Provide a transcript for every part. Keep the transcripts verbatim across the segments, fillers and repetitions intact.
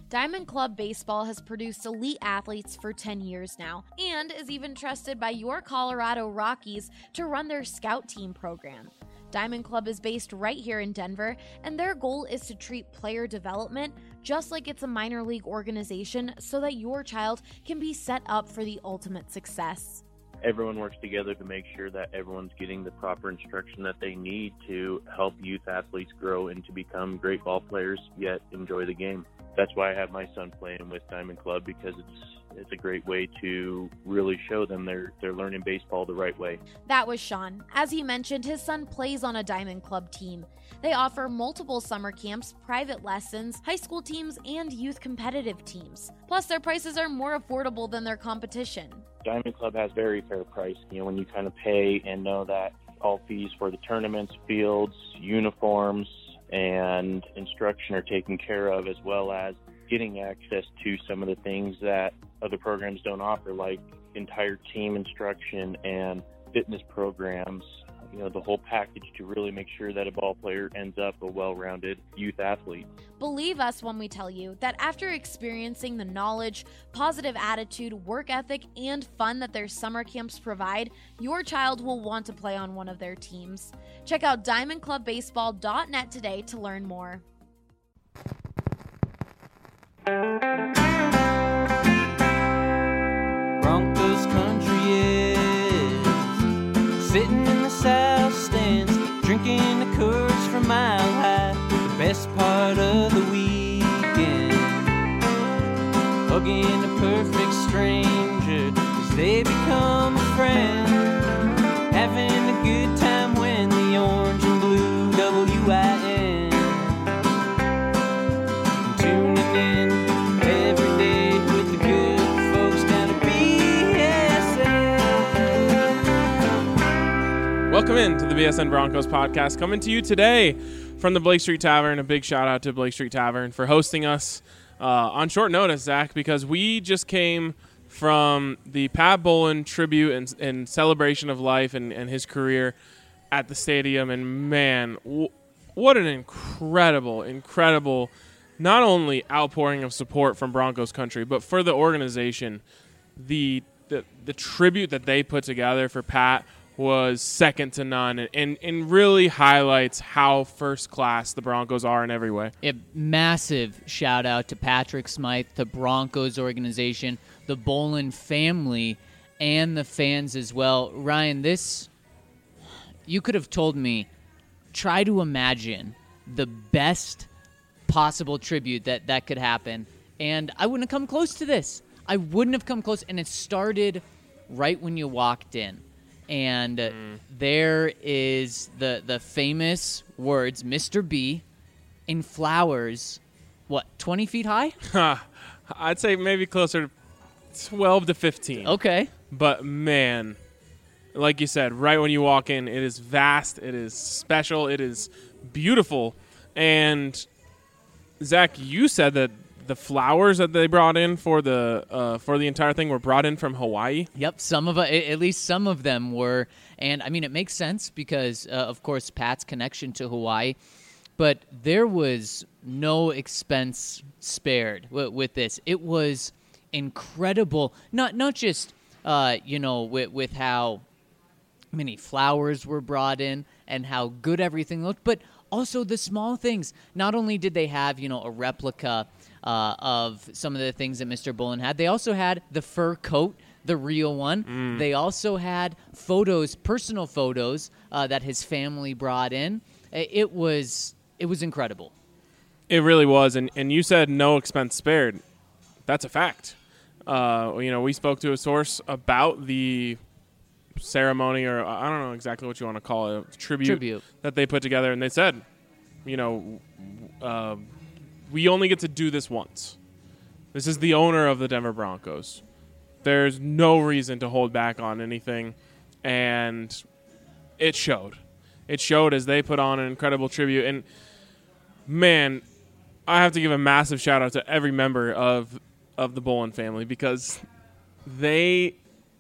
Diamond Club Baseball has produced elite athletes for ten years now and is even trusted by your Colorado Rockies to run their scout team program. Diamond Club is based right here in Denver, and their goal is to treat player development just like it's a minor league organization so that your child can be set up for the ultimate success. Everyone works together to make sure that everyone's getting the proper instruction that they need to help youth athletes grow and to become great ball players, yet enjoy the game. That's why I have my son playing with Diamond Club, because it's it's a great way to really show them they're they're learning baseball the right way. That was Sean. As he mentioned, his son plays on a Diamond Club team. They offer multiple summer camps, private lessons, high school teams, and youth competitive teams. Plus, their prices are more affordable than their competition. Diamond Club has very fair price. You know, when you kind of pay and know that all fees for the tournaments, fields, uniforms, and instruction are taken care of, as well as getting access to some of the things that other programs don't offer, like entire team instruction and fitness programs, you know, the whole package to really make sure that a ball player ends up a well-rounded youth athlete. Believe us when we tell you that after experiencing the knowledge, positive attitude, work ethic, and fun that their summer camps provide, your child will want to play on one of their teams. Check out diamond club baseball dot net today to learn more. Broncos country is sitting in the south stands, drinking the Coors from Mile High, the best part of the weekend, hugging a perfect stranger as they become a friend, having a good time when the orange and blue W I N, tuning in every day with the good folks down at B S N. Welcome in to the B S N Broncos podcast, coming to you today from the Blake Street Tavern. A big shout out to Blake Street Tavern for hosting us uh, on short notice, Zach, because we just came from the Pat Bowlen tribute and, and celebration of life and, and his career at the stadium. And man, w- what an incredible, incredible, not only outpouring of support from Broncos country, but for the organization. The the, the tribute that they put together for Pat was second to none, and, and, and really highlights how first class the Broncos are in every way. A massive shout out to Patrick Smythe, the Broncos organization, the Bowlen family, and the fans as well. Ryan, this, you could have told me, try to imagine the best possible tribute that, that could happen, and I wouldn't have come close to this. I wouldn't have come close, and it started right when you walked in. And mm. there is the the famous words, Mister B, in flowers, what, twenty feet high? I'd say maybe closer to twelve to fifteen. Okay. But, man, like you said, right when you walk in, it is vast, it is special, it is beautiful. And, Zach, you said that the flowers that they brought in for the uh, for the entire thing were brought in from Hawaii. Yep, some of it, at least some of them were, and I mean it makes sense because uh, of course Pat's connection to Hawaii, but there was no expense spared w- with this. It was incredible, not not just uh, you know with with how many flowers were brought in and how good everything looked, but also the small things. Not only did they have you know a replica Uh, of some of the things that Mister Bowlen had. They also had the fur coat, the real one. Mm. They also had photos, personal photos uh, that his family brought in. It was it was incredible. It really was, and and you said no expense spared. That's a fact. Uh, you know, we spoke to a source about the ceremony, or I don't know exactly what you want to call it, tribute, tribute. that they put together, and they said, you know, uh, we only get to do this once. This is the owner of the Denver Broncos. There's no reason to hold back on anything, and it showed. It showed as they put on an incredible tribute. And, man, I have to give a massive shout-out to every member of of the Bowlen family because they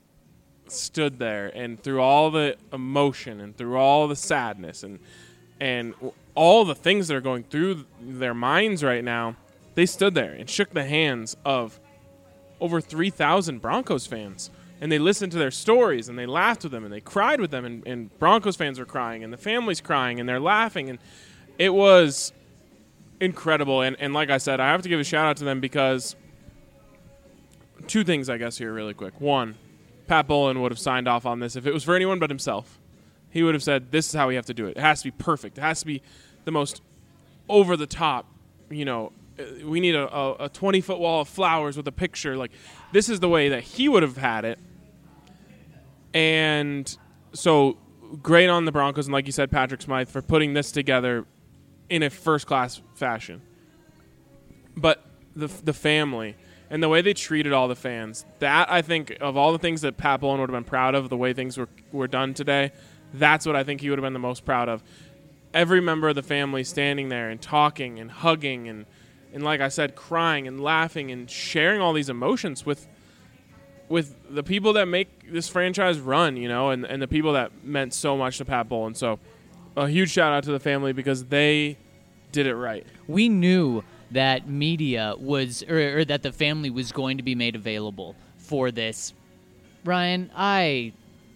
stood there, and through all the emotion and through all the sadness and and all the things that are going through their minds right now, they stood there and shook the hands of over three thousand Broncos fans. And they listened to their stories, and they laughed with them, and they cried with them, and, and Broncos fans were crying, and the family's crying, and they're laughing. And it was incredible. And, and like I said, I have to give a shout-out to them because two things, I guess, here really quick. One, Pat Bowlen would have signed off on this if it was for anyone but himself. He would have said, this is how we have to do it. It has to be perfect. It has to be the most over-the-top, you know, we need a twenty-foot wall of flowers with a picture. Like, this is the way that he would have had it. And so great on the Broncos, and like you said, Patrick Smythe, for putting this together in a first-class fashion. But the the family and the way they treated all the fans, that, I think, of all the things that Pat Bowlen would have been proud of, the way things were, were done today, that's what I think he would have been the most proud of. Every member of the family standing there and talking and hugging and, and like I said, crying and laughing and sharing all these emotions with with the people that make this franchise run, you know, and, and the people that meant so much to Pat Bowlen. So a huge shout out to the family because they did it right. We knew that media was, or, or that the family was going to be made available for this. Ryan, I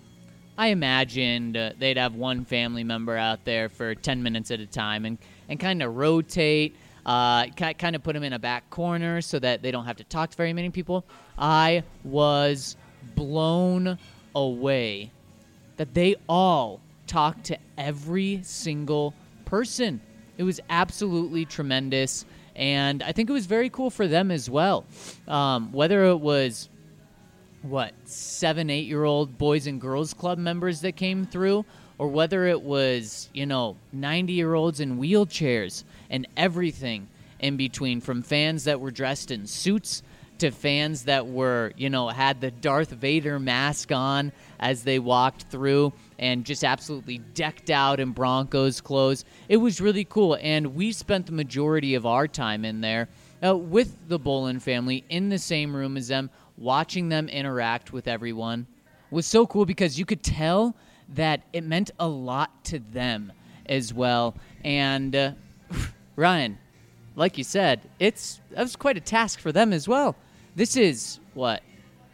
I imagined uh, they'd have one family member out there for ten minutes at a time and, and kind of rotate, uh, kind of put them in a back corner so that they don't have to talk to very many people. I was blown away that they all talked to every single person. It was absolutely tremendous, and I think it was very cool for them as well. Um, whether it was, what, seven, eight-year-old Boys and Girls Club members that came through, or whether it was, you know, ninety-year-olds in wheelchairs and everything in between, from fans that were dressed in suits to fans that were, you know, had the Darth Vader mask on as they walked through and just absolutely decked out in Broncos clothes. It was really cool, and we spent the majority of our time in there uh, with the Bowlen family in the same room as them, watching them interact with everyone. It was so cool because you could tell that it meant a lot to them as well. And uh, Ryan, like you said, it's that was quite a task for them as well. This is, what,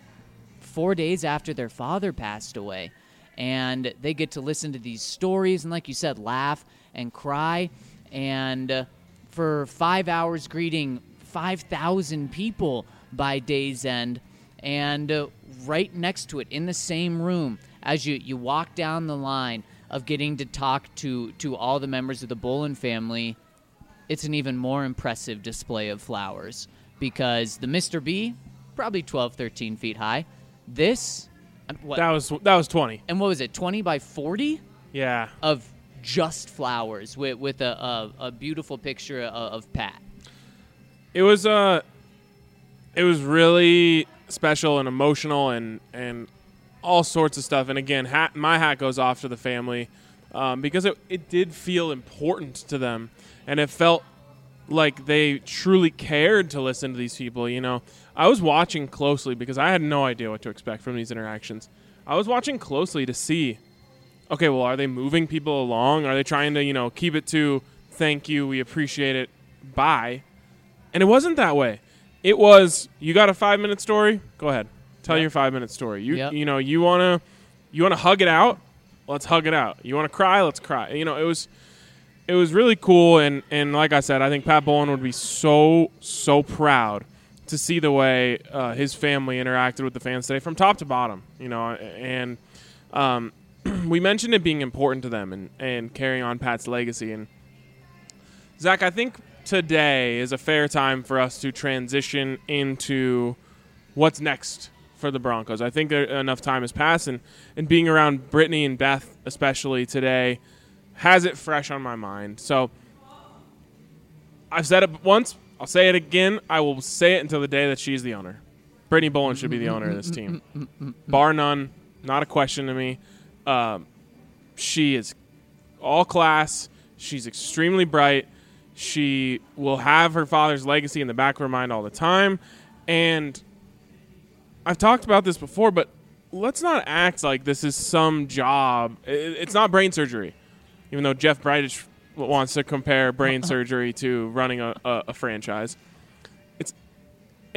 four days after their father passed away. And they get to listen to these stories and, like you said, laugh and cry. And uh, for five hours greeting five thousand people by day's end. And uh, right next to it, in the same room, as you, you walk down the line of getting to talk to, to all the members of the Bowlen family, it's an even more impressive display of flowers. Because the Mister B, probably twelve, thirteen feet high. This, what? That was that was twenty. And what was it, twenty by forty? Yeah. Of just flowers with, with a, a, a beautiful picture of, of Pat. It was uh, it was really special and emotional and, and all sorts of stuff. And again, hat, my hat goes off to the family um, because it, it did feel important to them. And it felt like they truly cared to listen to these people, you know. I was watching closely because I had no idea what to expect from these interactions. I was watching closely to see, okay, well, are they moving people along? Are they trying to, you know, keep it to thank you, we appreciate it, bye? And it wasn't that way. It was, you got a five-minute story? Go ahead. Tell yep. your five-minute story. You yep. you know, you want to you want to hug it out? Let's hug it out. You want to cry? Let's cry. You know, it was It was really cool, and, and like I said, I think Pat Bowlen would be so, so proud to see the way uh, his family interacted with the fans today from top to bottom, you know, and um, we mentioned it being important to them and, and carrying on Pat's legacy. And Zach, I think today is a fair time for us to transition into what's next for the Broncos. I think there, enough time has passed, and, and being around Brittany and Beth especially today has it fresh on my mind. So I've said it once. I'll say it again. I will say it until the day that she's the owner. Brittany Bowlen should be the owner of this team. Bar none. Not a question to me. Um, she is all class. She's extremely bright. She will have her father's legacy in the back of her mind all the time. And I've talked about this before, but let's not act like this is some job. It's not brain surgery. Even though Jeff Bridich wants to compare brain surgery to running a, a, a franchise.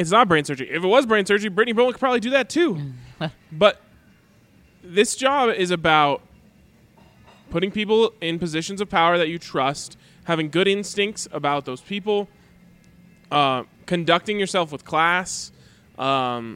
It's not brain surgery. If it was brain surgery, Brittany Bowen could probably do that too. But this job is about putting people in positions of power that you trust, having good instincts about those people, uh, conducting yourself with class, um,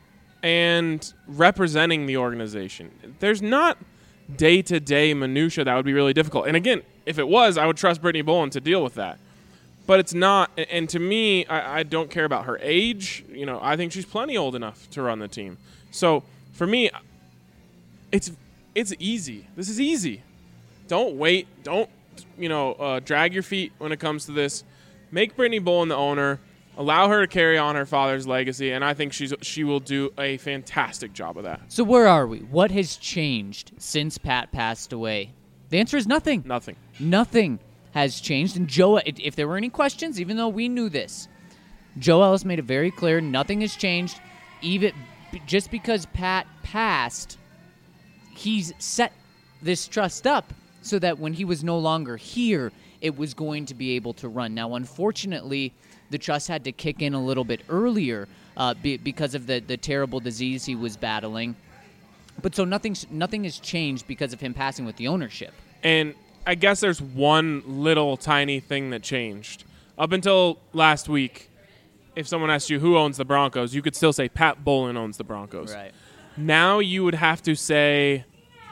and representing the organization. There's not day-to-day minutia that would be really difficult. And again, if it was, I would trust Brittany Bowen to deal with that. But it's not. And to me, I, I don't care about her age. You know, I think she's plenty old enough to run the team. So for me, it's it's easy. This is easy. Don't wait. Don't, you know, uh, drag your feet when it comes to this. Make Brittany Bowen the owner. Allow her to carry on her father's legacy, and I think she's she will do a fantastic job of that. So where are we? What has changed since Pat passed away? The answer is nothing. Nothing. Nothing has changed. And Joe, if there were any questions, even though we knew this, Joe Ellis made it very clear nothing has changed. Even just because Pat passed, he's set this trust up so that when he was no longer here, it was going to be able to run. Now, unfortunately, the trust had to kick in a little bit earlier uh, be, because of the, the terrible disease he was battling. But so nothing, nothing has changed because of him passing with the ownership. And I guess there's one little tiny thing that changed. Up until last week, if someone asked you who owns the Broncos, you could still say Pat Bowlen owns the Broncos. Right. Now you would have to say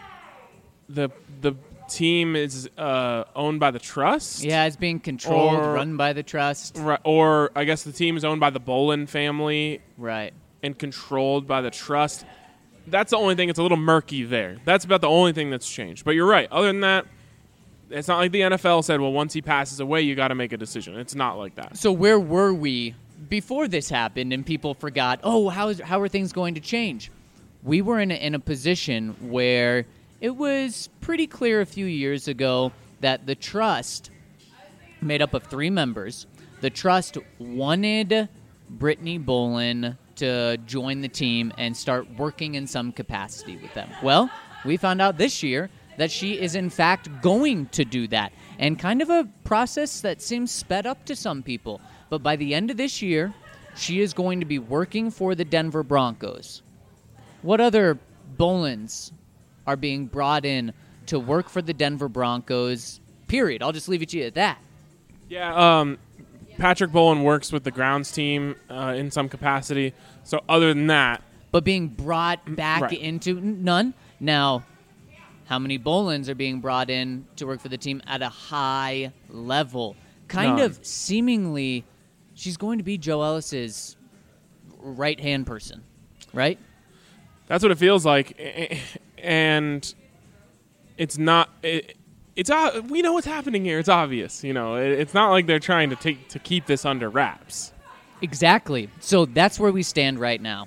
the the team is uh, owned by the trust. Yeah, it's being controlled, Or- run by the trust. Right, or I guess the team is owned by the Bowlen family Right. and controlled by the trust. That's the only thing. It's a little murky there. That's about the only thing that's changed. But you're right. Other than that, it's not like the N F L said, well, once he passes away, you got to make a decision. It's not like that. So where were we before this happened and people forgot, oh, how, is, how are things going to change? We were in a, in a position where it was pretty clear a few years ago that the trust, made up of three members, the trust wanted Brittany Bowen to join the team and start working in some capacity with them. Well, we found out this year that she is in fact going to do that, and kind of a process that seems sped up to some people. But by the end of this year, she is going to be working for the Denver Broncos. What other Bolens are being brought in to work for the Denver Broncos, period? I'll just leave it to you at that. Yeah, um, Patrick Bowlen works with the grounds team uh, in some capacity. So other than that, But being brought back right. into n- none. Now, how many Bolens are being brought in to work for the team at a high level? Kind None. of seemingly, she's going to be Joe Ellis's right-hand person, right? that's what it feels like. A- And it's not. It, it's uh, we know what's happening here. It's obvious. You know, it, it's not like they're trying to take to keep this under wraps. Exactly. So that's where we stand right now,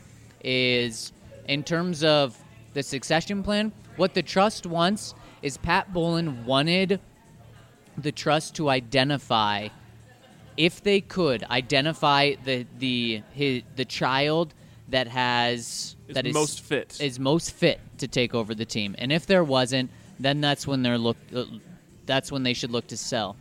is in terms of the succession plan, what the trust wants is Pat Bowlen wanted the trust to identify, if they could, identify the the his, the child that has Is that is most fit. is most fit to take over the team. And if there wasn't, then that's when they're look uh, that's when they should look to sell.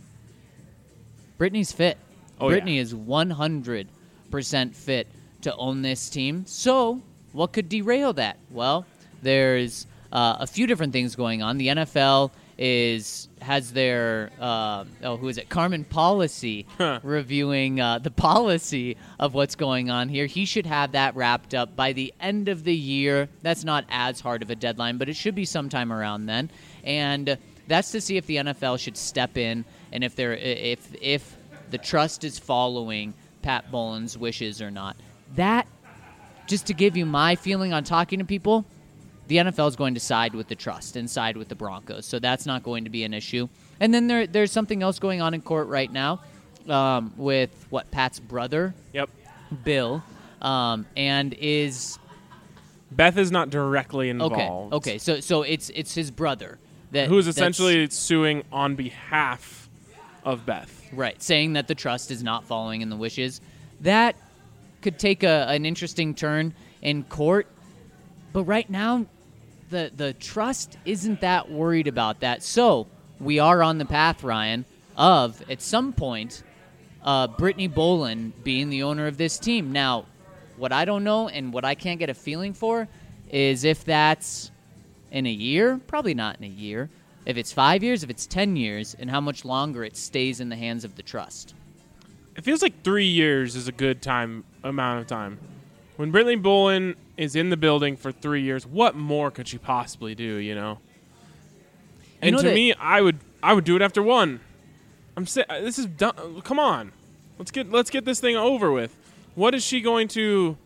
Brittany's fit. Oh, Brittany yeah. is one hundred percent fit to own this team. So, what could derail that? Well, there's uh, a few different things going on. The N F L is has their uh, oh who is it Carmen Policy Huh. reviewing uh, the policy of what's going on here. He should have that wrapped up by the end of the year. That's not as hard of a deadline, but it should be sometime around then. And that's to see if the N F L should step in and if they're if if the trust is following Pat Bowlen's wishes or not. That, just to give you my feeling on talking to people, the N F L is going to side with the trust and side with the Broncos, so that's not going to be an issue. And then there, there's something else going on in court right now um, with, what, Pat's brother, Yep. Bill, um, and is... Beth is not directly Okay, involved. okay, so so it's it's his brother. that Who's that's- essentially suing on behalf of Beth. Right, saying that the trust is not following in the wishes. That could take a, an interesting turn in court, but right now, the the trust isn't that worried about that. So we are on the path, Ryan, of at some point uh, Brittany Bolin being the owner of this team. Now, what I don't know and what I can't get a feeling for is if that's in a year, probably not in a year. If it's five years, if it's ten years, and how much longer it stays in the hands of the trust. It feels like three years is a good time amount of time. When Brittany Bolin is in the building for three years, what more could she possibly do, you know? And You know to that- me, I would I would do it after one. I'm si- this is done. Come on. Let's get let's get this thing over with. What is she going to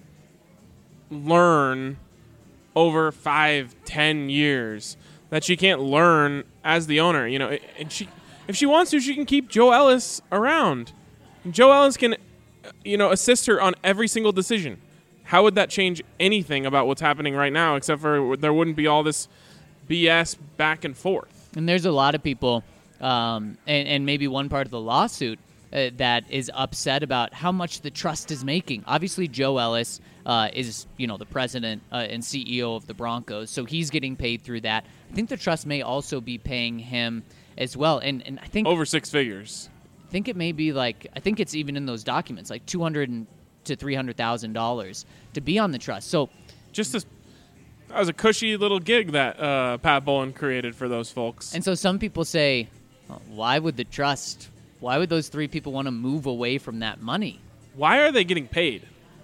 learn over five, ten years that she can't learn as the owner? You know, and she, if she wants to, she can keep Joe Ellis around. Joe Ellis can, you know, assist her on every single decision. How would that change anything about what's happening right now, except for there wouldn't be all this B S back and forth? And there's a lot of people, um, and, and maybe one part of the lawsuit uh, that is upset about how much the trust is making. Obviously, Joe Ellis uh, is, you know, the president uh, and C E O of the Broncos, so he's getting paid through that. I think the trust may also be paying him as well, and and I think Over six figures. I think it may be like I think it's even in those documents, like two hundred to three hundred thousand dollars to be on the trust. So Just this, that was a cushy little gig that uh, Pat Bolin created for those folks. And so some people say, oh, why would the trust, why would those three people want to move away from that money? Why are they getting paid?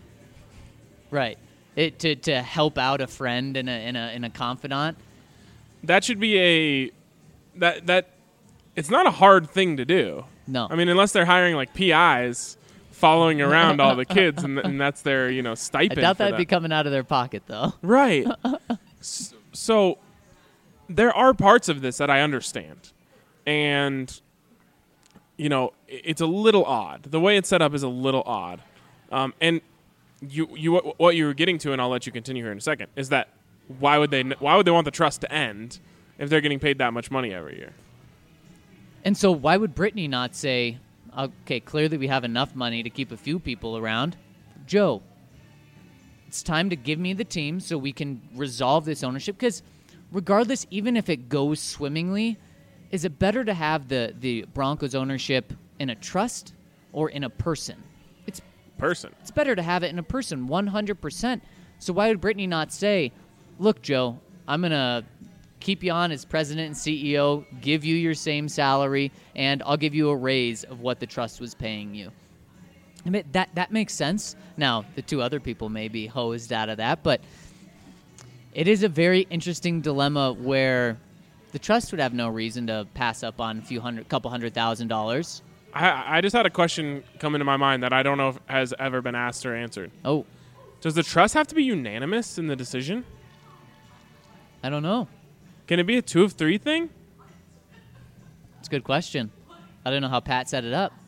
Right. It, to, to help out a friend and a, and, a, and a confidant. That should be a that that it's not a hard thing to do. No. I mean, unless they're hiring like P Is following around all the kids, and, and that's their you know I stipend. doubt for that'd that. be coming out of their pocket, though. Right. S- so there are parts of this that I understand. And, you know, i- it's a little odd. The way it's set up is a little odd. Um, and you, you, what you were getting to, and I'll let you continue here in a second, is that why would they, why would they want the trust to end if they're getting paid that much money every year? And so why would Brittany not say, okay, clearly we have enough money to keep a few people around. Joe, it's time to give me the team so we can resolve this ownership. Because regardless, even if it goes swimmingly, is it better to have the, the Broncos ownership in a trust or in a person? It's Person. it's better to have it in a person, one hundred percent. So why would Brittany not say, look, Joe, I'm going to keep you on as president and C E O, give you your same salary, and I'll give you a raise of what the trust was paying you. I mean, that, that makes sense. Now, the two other people may be hosed out of that, but it is a very interesting dilemma where the trust would have no reason to pass up on a few hundred, couple hundred thousand dollars. I, I just had a question come into my mind that I don't know if has ever been asked or answered. Oh, Does the trust have to be unanimous in the decision? I don't know. Can it be a two of three thing? It's a good question. I don't know how Pat set it up.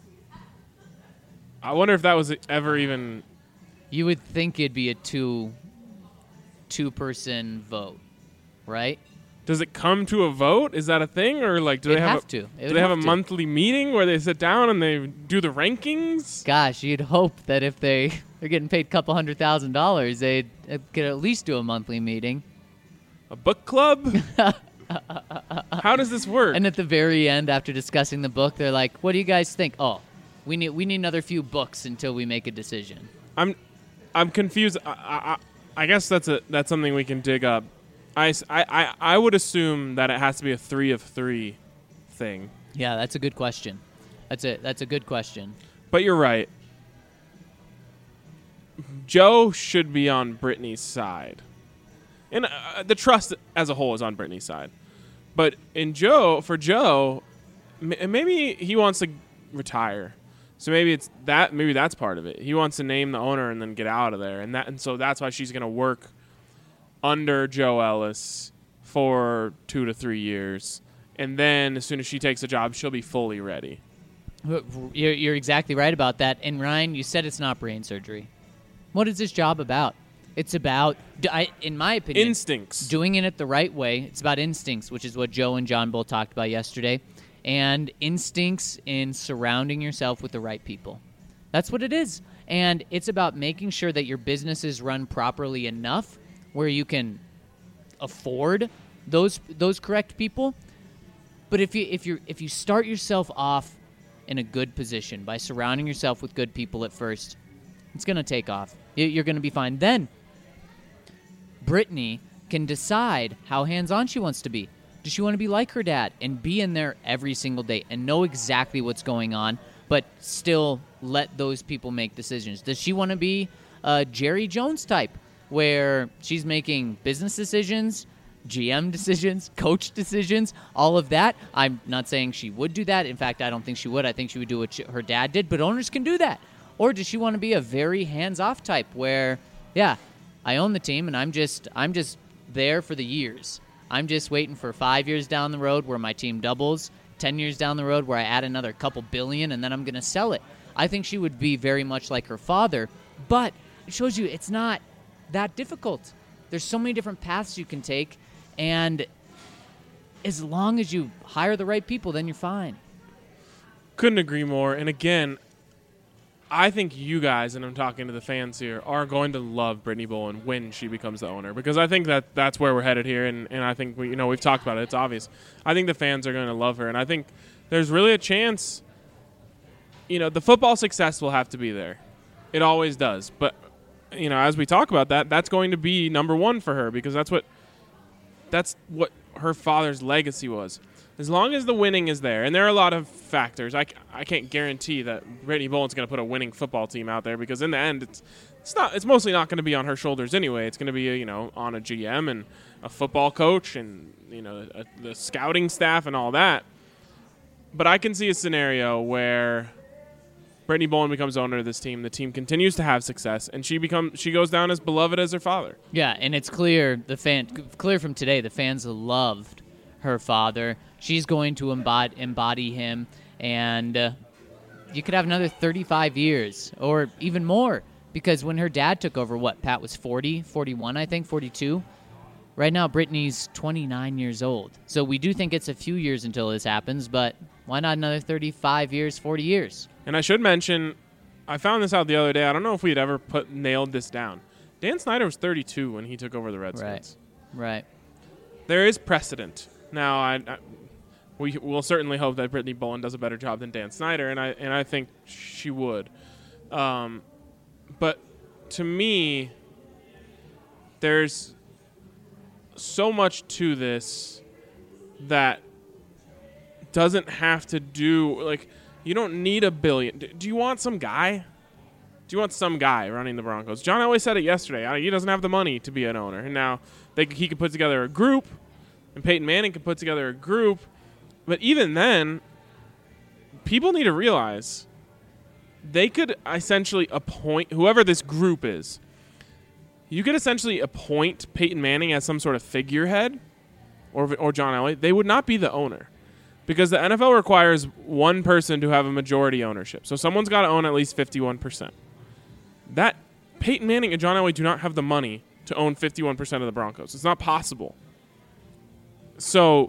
I wonder if that was ever even. You would think it'd be a two two person vote, right? Does it come to a vote? Is that a thing, or like do It'd they have, have a, to. It do would they have, have a to. monthly meeting where they sit down and they do the rankings? Gosh, you'd hope that if they they're getting paid a couple hundred thousand dollars, they'd uh, could at least do a monthly meeting. A book club? How does this work? And at the very end, after discussing the book, they're like, "What do you guys think?" Oh, we need we need another few books until we make a decision. I'm, I'm confused. I, I, I guess that's a that's something we can dig up. I, s- I, I, I would assume that it has to be a three of three thing. Yeah, that's a good question. That's a that's a good question. But you're right. Joe should be on Brittany's side. And uh, the trust as a whole is on Brittany's side. But in Joe, for Joe, m- maybe he wants to retire. So maybe it's that. Maybe that's part of it. He wants to name the owner and then get out of there, and that. And so that's why she's going to work under Joe Ellis for two to three years, and then as soon as she takes a job, she'll be fully ready. You're, you're exactly right about that. And Ryan, you said it's not brain surgery. What is this job about? It's about, d- I, in my opinion, Instincts. doing it the right way. It's about instincts, which is what Joe and John both talked about yesterday, and instincts in surrounding yourself with the right people. That's what it is. And it's about making sure that your business is run properly enough where you can afford those those correct people. But if you if you if you start yourself off in a good position, by surrounding yourself with good people at first, it's going to take off. You're going to be fine. Then, Brittany can decide how hands-on she wants to be. Does she want to be like her dad and be in there every single day and know exactly what's going on, but still let those people make decisions? Does she want to be a Jerry Jones type, where she's making business decisions, G M decisions, coach decisions, all of that? I'm not saying she would do that. In fact, I don't think she would. I think she would do what she, her dad did, but owners can do that. Or does she want to be a very hands-off type where, yeah, I own the team and I'm just I'm just there for the years. I'm just waiting for five years down the road where my team doubles, ten years down the road where I add another couple billion, and then I'm going to sell it. I think she would be very much like her father, but it shows you it's not that difficult. There's so many different paths you can take, and as long as you hire the right people, then you're fine. Couldn't agree more. And again, I think you guys, and I'm talking to the fans here, are going to love Brittany Bowen when she becomes the owner, because I think that that's where we're headed here, and, and I think we, you know, we've talked about it. It's obvious. I think the fans are going to love her, and I think there's really a chance. You know, the football success will have to be there. It always does. But you know, as we talk about that, that's going to be number one for her, because that's what that's what her father's legacy was. As long as the winning is there, and there are a lot of factors. I, I can't guarantee that Brittany Bowen's going to put a winning football team out there, because in the end, it's it's not it's mostly not going to be on her shoulders anyway. It's going to be you know on a G M and a football coach and you know a, the scouting staff and all that. But I can see a scenario where Brittany Bowen becomes owner of this team. The team continues to have success, and she becomes she goes down as beloved as her father. Yeah, and it's clear the fan clear from today the fans loved her father. She's going to embody, embody him, and uh, you could have another thirty-five years or even more, because when her dad took over, what, Pat was forty, forty-one, I think, forty-two? Right now, Brittany's twenty-nine years old. So we do think it's a few years until this happens, but why not another thirty-five years, forty years? And I should mention, I found this out the other day. I don't know if we'd ever put nailed this down. Dan Snyder was thirty-two when he took over the Redskins. Right, right. There is precedent. Now, I, I we will certainly hope that Brittany Bowen does a better job than Dan Snyder, and I and I think she would. Um, but to me, there's so much to this that doesn't have to do, like, you don't need a billion. Do you want some guy? Do you want some guy running the Broncos? John Elway said it yesterday. He doesn't have the money to be an owner. And now they, he could put together a group, and Peyton Manning could put together a group. But even then, people need to realize they could essentially appoint whoever this group is. You could essentially appoint Peyton Manning as some sort of figurehead, or or John Elway. They would not be the owner, because the N F L requires one person to have a majority ownership. So someone's got to own at least fifty-one percent. That Peyton Manning and John Elway do not have the money to own fifty-one percent of the Broncos. It's not possible. So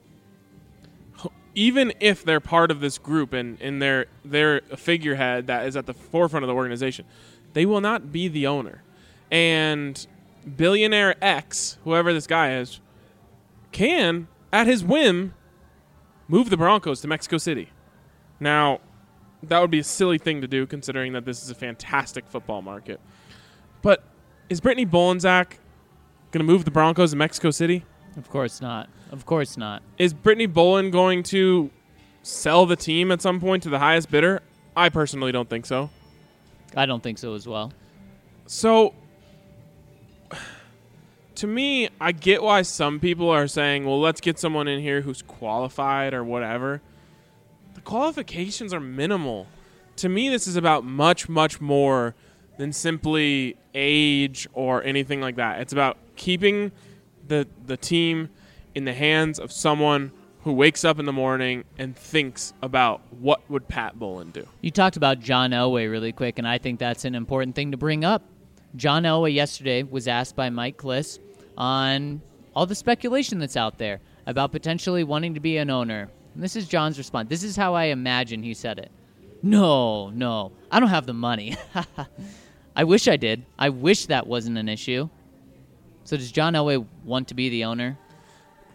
even if they're part of this group and, and they're, they're a figurehead that is at the forefront of the organization, they will not be the owner. And billionaire X, whoever this guy is, can, at his whim, move the Broncos to Mexico City. Now, that would be a silly thing to do, considering that this is a fantastic football market. But is Brittany Bowen, Zach, going to move the Broncos to Mexico City? Of course not. Of course not. Is Brittany Bowen going to sell the team at some point to the highest bidder? I personally don't think so. I don't think so as well. So, to me, I get why some people are saying, well, let's get someone in here who's qualified or whatever. The qualifications are minimal. To me, this is about much, much more than simply age or anything like that. It's about keeping the the team in the hands of someone who wakes up in the morning and thinks about what would Pat Bowlen do. You talked about John Elway really quick, and I think that's an important thing to bring up. John Elway yesterday was asked by Mike Kliss on all the speculation that's out there about potentially wanting to be an owner. And this is John's response. This is how I imagine he said it. No, no, I don't have the money. I wish I did. I wish that wasn't an issue. So does John Elway want to be the owner?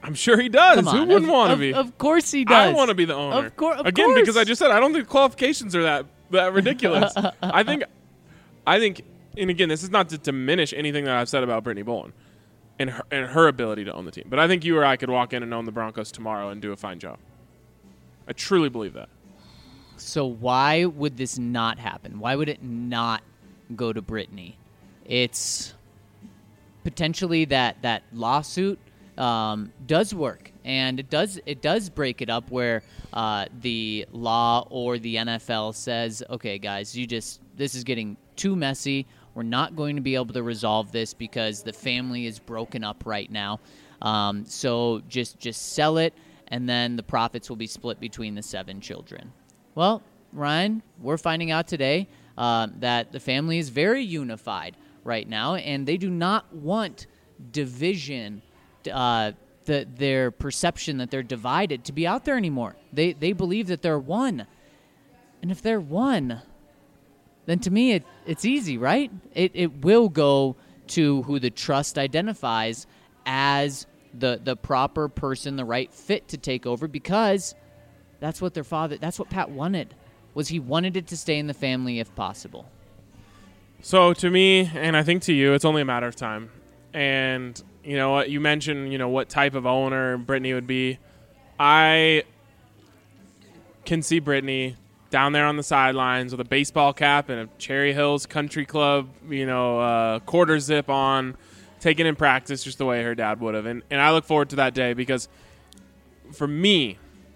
I'm sure he does. Come on. Who wouldn't of, want to of, be? Of course he does. I want to be the owner. Of, cour- of Again, course. because I just said I don't think the qualifications are that that ridiculous. I think, I think, and again, this is not to diminish anything that I've said about Brittany Bolin and her, and her ability to own the team. But I think you or I could walk in and own the Broncos tomorrow and do a fine job. I truly believe that. So why would this not happen? Why would it not go to Brittany? It's potentially that that lawsuit um, does work, and it does it does break it up where uh, the law or the N F L says, okay, guys, you just this is getting too messy. We're not going to be able to resolve this because the family is broken up right now. Um, so just just sell it, and then the profits will be split between the seven children. Well, Ryan, we're finding out today uh, that the family is very unified right now, and they do not want division, uh, the, their perception that they're divided, to be out there anymore. They they believe that they're one. And if they're one, then to me it, it's easy, right? It it will go to who the trust identifies as the the proper person, the right fit to take over, because that's what their father, that's what Pat wanted, was he wanted it to stay in the family if possible. So to me, and I think to you, it's only a matter of time. And you know what, you mentioned, you know, what type of owner Brittany would be. I can see Brittany down there on the sidelines with a baseball cap and a Cherry Hills Country Club, you know, uh, quarter zip on, taking in practice just the way her dad would have. And, and I look forward to that day, because for me,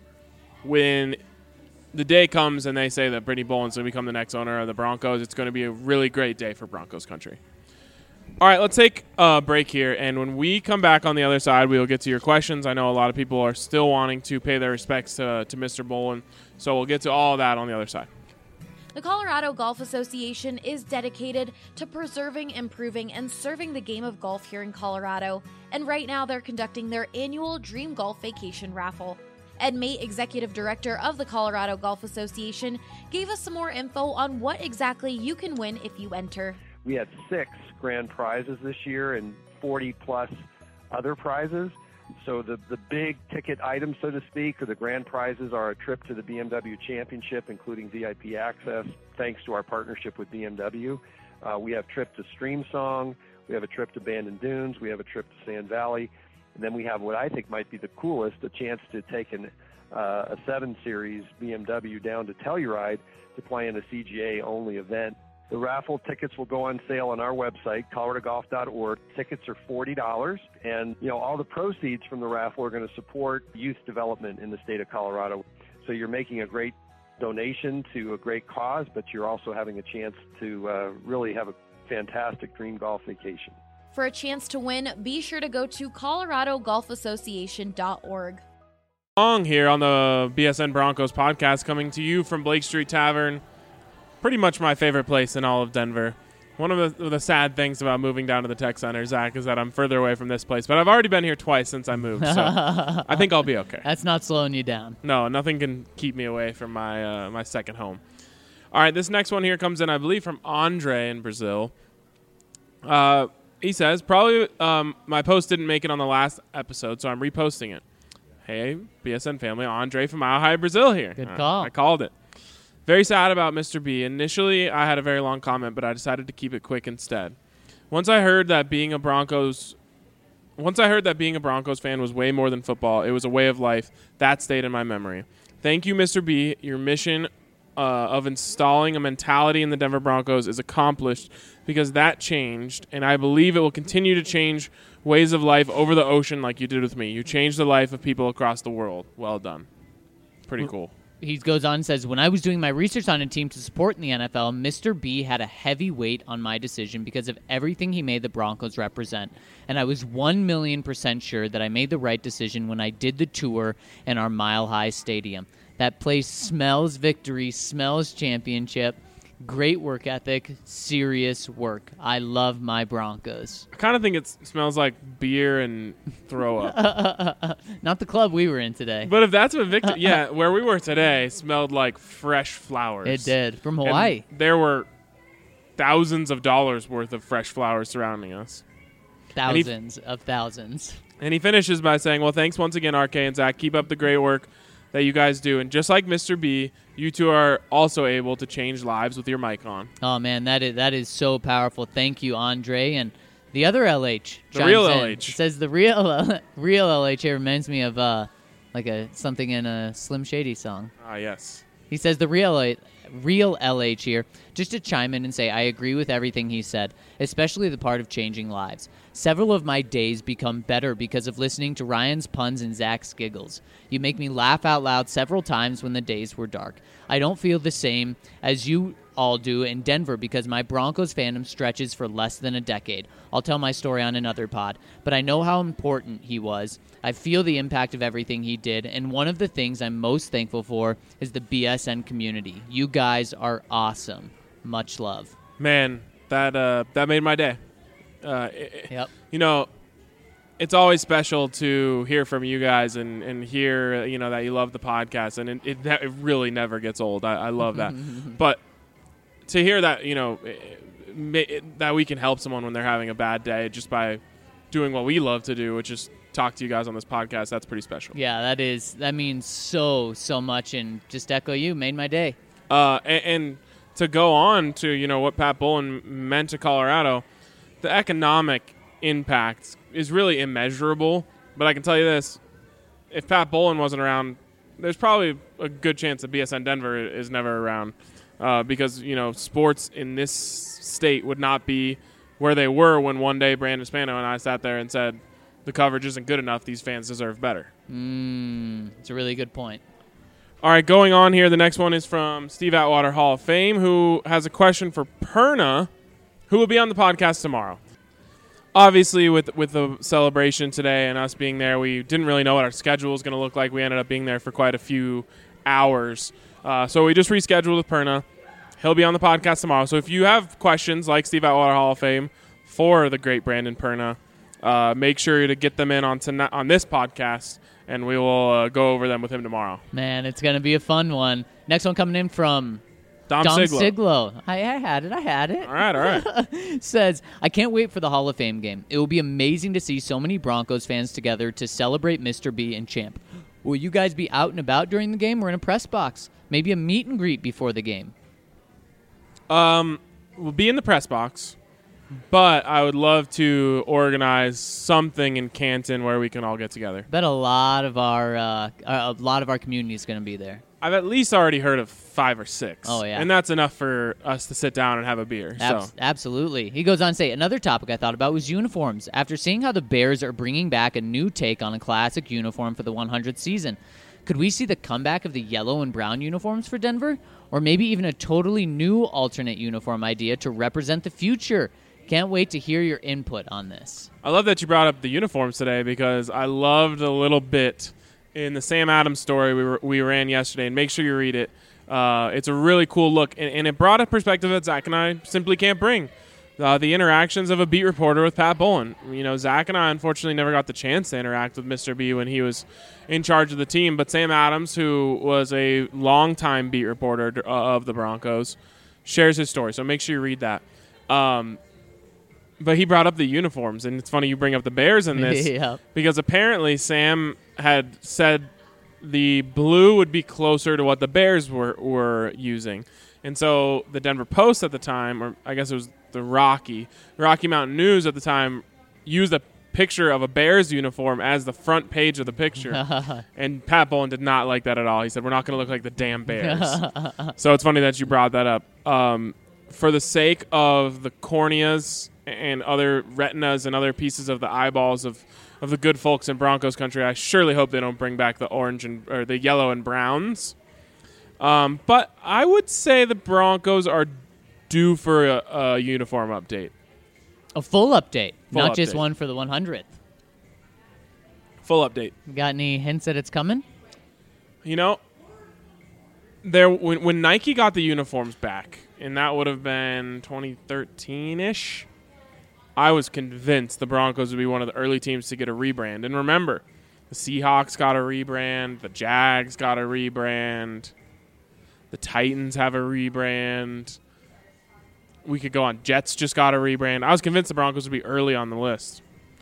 when the day comes and they say that Brittany Bolin's going to become the next owner of the Broncos, it's going to be a really great day for Broncos country. All right, let's take a break here, and when we come back on the other side, we will get to your questions. I know a lot of people are still wanting to pay their respects to, to Mister Bolin, so we'll get to all of that on the other side. The Colorado Golf Association is dedicated to preserving, improving, and serving the game of golf here in Colorado, and right now they're conducting their annual Dream Golf Vacation Raffle. Ed Mate, Executive Director of the Colorado Golf Association, gave us some more info on what exactly you can win if you enter. We had six grand prizes this year and forty plus other prizes. So the, the big ticket items, so to speak, or the grand prizes are a trip to the B M W Championship, including V I P access, thanks to our partnership with B M W. Uh, we have a trip to Streamsong. We have a trip to Bandon Dunes. We have a trip to Sand Valley. And then we have what I think might be the coolest, a chance to take an, uh, a seven series B M W down to Telluride to play in a C G A-only event. The raffle tickets will go on sale on our website, colorado golf dot org. Tickets are forty dollars, and you know all the proceeds from the raffle are going to support youth development in the state of Colorado. So you're making a great donation to a great cause, but you're also having a chance to uh, really have a fantastic dream golf vacation. For a chance to win, be sure to go to colorado golf association dot org. Long here on the B S N Broncos podcast, coming to you from Blake Street Tavern. Pretty much my favorite place in all of Denver. One of the, the sad things about moving down to the Tech Center, Zach, is that I'm further away from this place. But I've already been here twice since I moved, so I think I'll be okay. That's not slowing you down. No, nothing can keep me away from my uh, my second home. All right, this next one here comes in, I believe, from Andre in Brazil. Uh, he says, probably um, my post didn't make it on the last episode, so I'm reposting it. Hey, B S N family, Andre from Mile High, Brazil here. Good Uh, call. I called it. Very sad about Mister B. Initially, I had a very long comment, but I decided to keep it quick instead. Once I heard that being a Broncos, once I heard that being a Broncos fan was way more than football, it was a way of life. That stayed in my memory. Thank you, Mister B. Your mission uh, of installing a mentality in the Denver Broncos is accomplished because that changed, and I believe it will continue to change ways of life over the ocean like you did with me. You changed the life of people across the world. Well done. Pretty cool. He goes on and says, when I was doing my research on a team to support in the N F L, Mister B had a heavy weight on my decision because of everything he made the Broncos represent. And I was one million percent sure that I made the right decision when I did the tour in our Mile High Stadium. That place smells victory, smells championship. Great work ethic, serious work. I love my Broncos. I kind of think it smells like beer and throw up. Not the club we were in today. But if that's what Victor, yeah, where we were today smelled like fresh flowers. It did. From Hawaii. And there were thousands of dollars worth of fresh flowers surrounding us. Thousands of thousands. And he finishes by saying, well, thanks once again, R K and Zach. Keep up the great work that you guys do. And just like Mister B, you two are also able to change lives with your mic on. Oh, man, that is that is so powerful. Thank you, Andre. And the other L H. The real L in. H. It says the real real L H here reminds me of uh, like a something in a Slim Shady song. Ah, yes. He says the real real L H here, just to chime in and say I agree with everything he said, especially the part of changing lives. Several of my days become better because of listening to Ryan's puns and Zach's giggles. You make me laugh out loud several times when the days were dark. I don't feel the same as you all do in Denver because my Broncos fandom stretches for less than a decade. I'll tell my story on another pod, but I know how important he was. I feel the impact of everything he did, and one of the things I'm most thankful for is the B S N community. You guys are awesome. Much love. Man, that uh, that made my day. Uh, it, Yep. You know, it's always special to hear from you guys and, and hear, you know, that you love the podcast. And it, it, that, it really never gets old. I, I love that. But to hear that, you know, it, it, that we can help someone when they're having a bad day just by doing what we love to do, which is talk to you guys on this podcast, that's pretty special. Yeah, that is. That means so, so much. And just echo you, made my day. Uh, and, and to go on to, you know, what Pat Bowlen meant to Colorado, the economic impact is really immeasurable. But I can tell you this, if Pat Bowlen wasn't around, there's probably a good chance that B S N Denver is never around uh, because, you know, sports in this state would not be where they were when one day Brandon Spano and I sat there and said, the coverage isn't good enough, these fans deserve better. Mm, it's a really good point. All right, going on here, the next one is from Steve Atwater, Hall of Fame, who has a question for Perna, who will be on the podcast tomorrow. Obviously, with with the celebration today and us being there, we didn't really know what our schedule was going to look like. We ended up being there for quite a few hours. Uh, so we just rescheduled with Perna. He'll be on the podcast tomorrow. So if you have questions like Steve Atwater, Hall of Fame, for the great Brandon Perna, uh, make sure to get them in on tonight, on this podcast, and we will uh, go over them with him tomorrow. Man, it's going to be a fun one. Next one coming in from Dom, Dom Siglo. Siglo. I, I had it. I had it. All right, all right. Says, I can't wait for the Hall of Fame game. It will be amazing to see so many Broncos fans together to celebrate Mister B and Champ. Will you guys be out and about during the game or in a press box? Maybe a meet and greet before the game? Um, we'll be in the press box, but I would love to organize something in Canton where we can all get together. Bet a lot of our uh, a lot of our community is going to be there. I've at least already heard of five or six. Oh, yeah. And that's enough for us to sit down and have a beer. Ab- so. Absolutely. He goes on to say, another topic I thought about was uniforms. After seeing how the Bears are bringing back a new take on a classic uniform for the one hundredth season, could we see the comeback of the yellow and brown uniforms for Denver? Or maybe even a totally new alternate uniform idea to represent the future? Can't wait to hear your input on this. I love that you brought up the uniforms today because I loved a little bit in the Sam Adams story we were, we ran yesterday, and make sure you read it. Uh, it's a really cool look, and, and it brought a perspective that Zach and I simply can't bring. Uh, the interactions of a beat reporter with Pat Bowlen. You know, Zach and I unfortunately never got the chance to interact with Mister B when he was in charge of the team, but Sam Adams, who was a longtime beat reporter of the Broncos, shares his story, so make sure you read that. Um, but he brought up the uniforms, and it's funny you bring up the Bears in this Yep. because apparently Sam had said the blue would be closer to what the Bears were, were using. And so the Denver Post at the time, or I guess it was the Rocky, Rocky Mountain News at the time, used a picture of a Bears uniform as the front page of the picture. And Pat Bowlen did not like that at all. He said, we're not going to look like the damn Bears. So it's funny that you brought that up. Um, for the sake of the corneas and other retinas and other pieces of the eyeballs of, of the good folks in Broncos country, I surely hope they don't bring back the orange and or the yellow and browns. Um, but I would say the Broncos are due for a, a uniform update. A full update, Full not just update. one for the one hundredth. Full update. Got any hints that it's coming? You know, there when, when Nike got the uniforms back, and that would have been twenty thirteen-ish, I was convinced the Broncos would be one of the early teams to get a rebrand. And remember, the Seahawks got a rebrand, the Jags got a rebrand, the Titans have a rebrand. We could go on. Jets just got a rebrand. I was convinced the Broncos would be early on the list.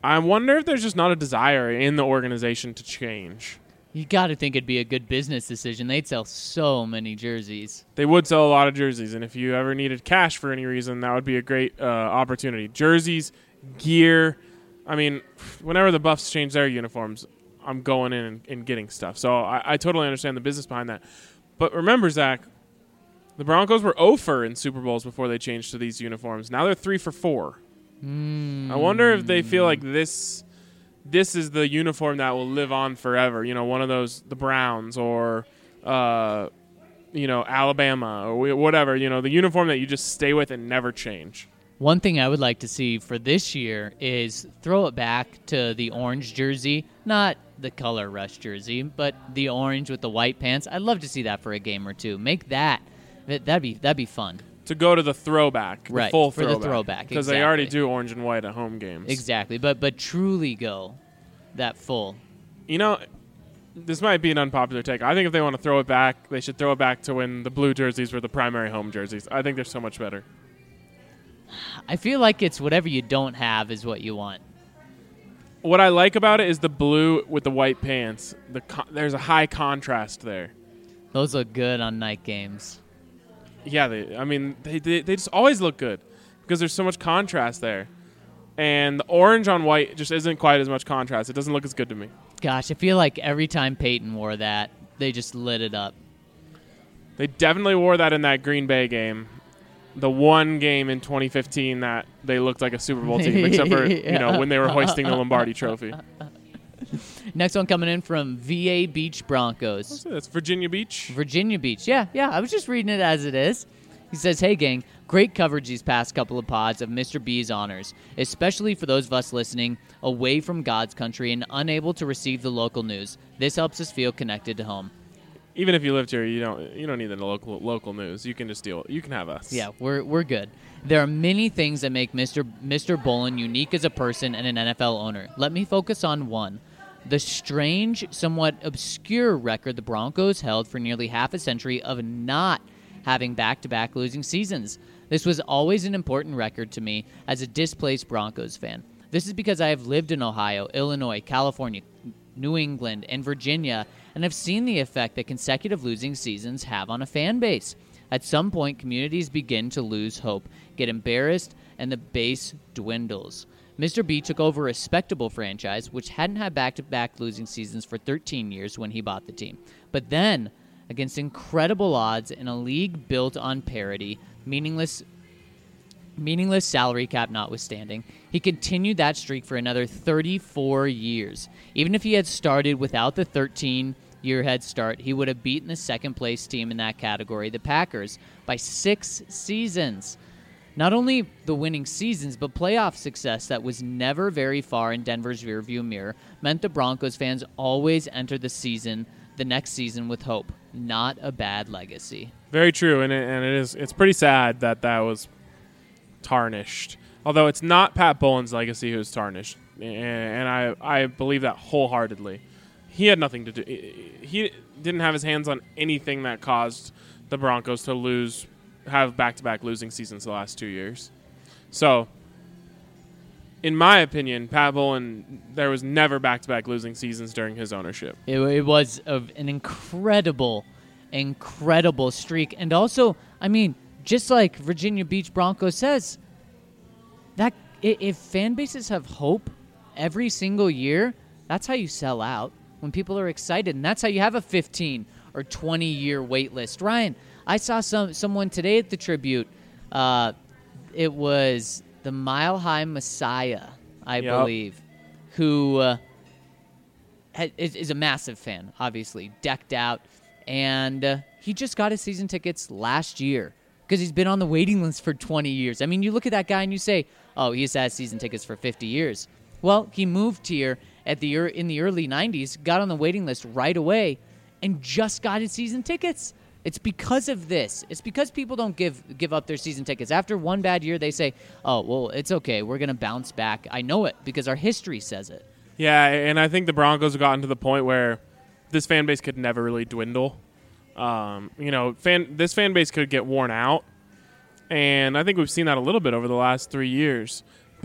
I wonder if there's just not a desire in the organization to change. You got to think it'd be a good business decision. They'd sell so many jerseys. They would sell a lot of jerseys, and if you ever needed cash for any reason, that would be a great uh, opportunity. Jerseys, gear. I mean, whenever the Buffs change their uniforms, I'm going in and, and getting stuff. So I, I totally understand the business behind that. But remember, Zach, the Broncos were oh for in Super Bowls before they changed to these uniforms. Now they're three for four. Mm. I wonder if they feel like this this is the uniform that will live on forever. You know, one of those, the Browns or, uh, you know, Alabama or whatever. You know, the uniform that you just stay with and never change. One thing I would like to see for this year is throw it back to the orange jersey, not the color rush jersey, but the orange with the white pants. I'd love to see that for a game or two. Make that. That'd be that'd be fun. To go to the throwback, right, the full for throwback. the throwback. Because exactly. they already do orange and white at home games. Exactly, but but truly go that full. You know, this might be an unpopular take. I think if they want to throw it back, they should throw it back to when the blue jerseys were the primary home jerseys. I think they're so much better. I feel like it's whatever you don't have is what you want. What I like about it is the blue with the white pants. The con- there's a high contrast there. Those look good on night games. Yeah, they, I mean, they, they they just always look good because there's so much contrast there. And the orange on white just isn't quite as much contrast. It doesn't look as good to me. Gosh, I feel like every time Peyton wore that, they just lit it up. They definitely wore that in that Green Bay game. The one game in twenty fifteen that they looked like a Super Bowl team, except for, you know, when they were hoisting the Lombardi Trophy. Next one coming in from V A Beach Broncos. That's Virginia Beach. Virginia Beach. Yeah, yeah. I was just reading it as it is. He says, hey, gang, great coverage these past couple of pods of Mister B's honors, especially for those of us listening away from God's country and unable to receive the local news. This helps us feel connected to home. Even if you lived here, you don't you don't need the local local news. You can just deal. You can have us. Yeah, we're we're good. There are many things that make Mister Mister Bolin unique as a person and an N F L owner. Let me focus on one. The strange, somewhat obscure record the Broncos held for nearly half a century of not having back-to-back losing seasons. This was always an important record to me as a displaced Broncos fan. This is because I have lived in Ohio, Illinois, California, New England, and Virginia, and have seen the effect that consecutive losing seasons have on a fan base. At some point, communities begin to lose hope, get embarrassed, and the base dwindles. Mister B took over a respectable franchise, which hadn't had back-to-back losing seasons for thirteen years when he bought the team. But then, against incredible odds in a league built on parity, meaningless meaningless salary cap notwithstanding, he continued that streak for another thirty-four years. Even if he had started without the thirteen-year head start, he would have beaten the second-place team in that category, the Packers, by six seasons. Not only the winning seasons, but playoff success that was never very far in Denver's rearview mirror meant the Broncos fans always entered the season, the next season, with hope. Not a bad legacy. Very true, and it, and it is. It's pretty sad that that was tarnished. Although it's not Pat Bolin's legacy who's tarnished, and I I believe that wholeheartedly. He had nothing to do. He didn't have his hands on anything that caused the Broncos to lose. Have back-to-back losing seasons the last two years. So, in my opinion, Pat Bolin, there was never back-to-back losing seasons during his ownership. It, it was a, an incredible, incredible streak. And also, I mean, just like Virginia Beach Broncos says, that if fan bases have hope every single year, that's how you sell out, when people are excited. And that's how you have a fifteen or twenty-year wait list. Ryan, I saw some someone today at the Tribute. Uh, it was the Mile High Messiah, I yep. believe, who uh, ha- is, is a massive fan, obviously, decked out. And uh, he just got his season tickets last year because he's been on the waiting list for twenty years. I mean, you look at that guy and you say, oh, he's had season tickets for fifty years. Well, he moved here at the in the early nineties, got on the waiting list right away, and just got his season tickets. It's because of this. It's because people don't give give up their season tickets. After one bad year, they say, oh, well, it's okay. We're going to bounce back. I know it because our history says it. Yeah, and I think the Broncos have gotten to the point where this fan base could never really dwindle. Um, you know, fan this fan base could get worn out, and I think we've seen that a little bit over the last three years. But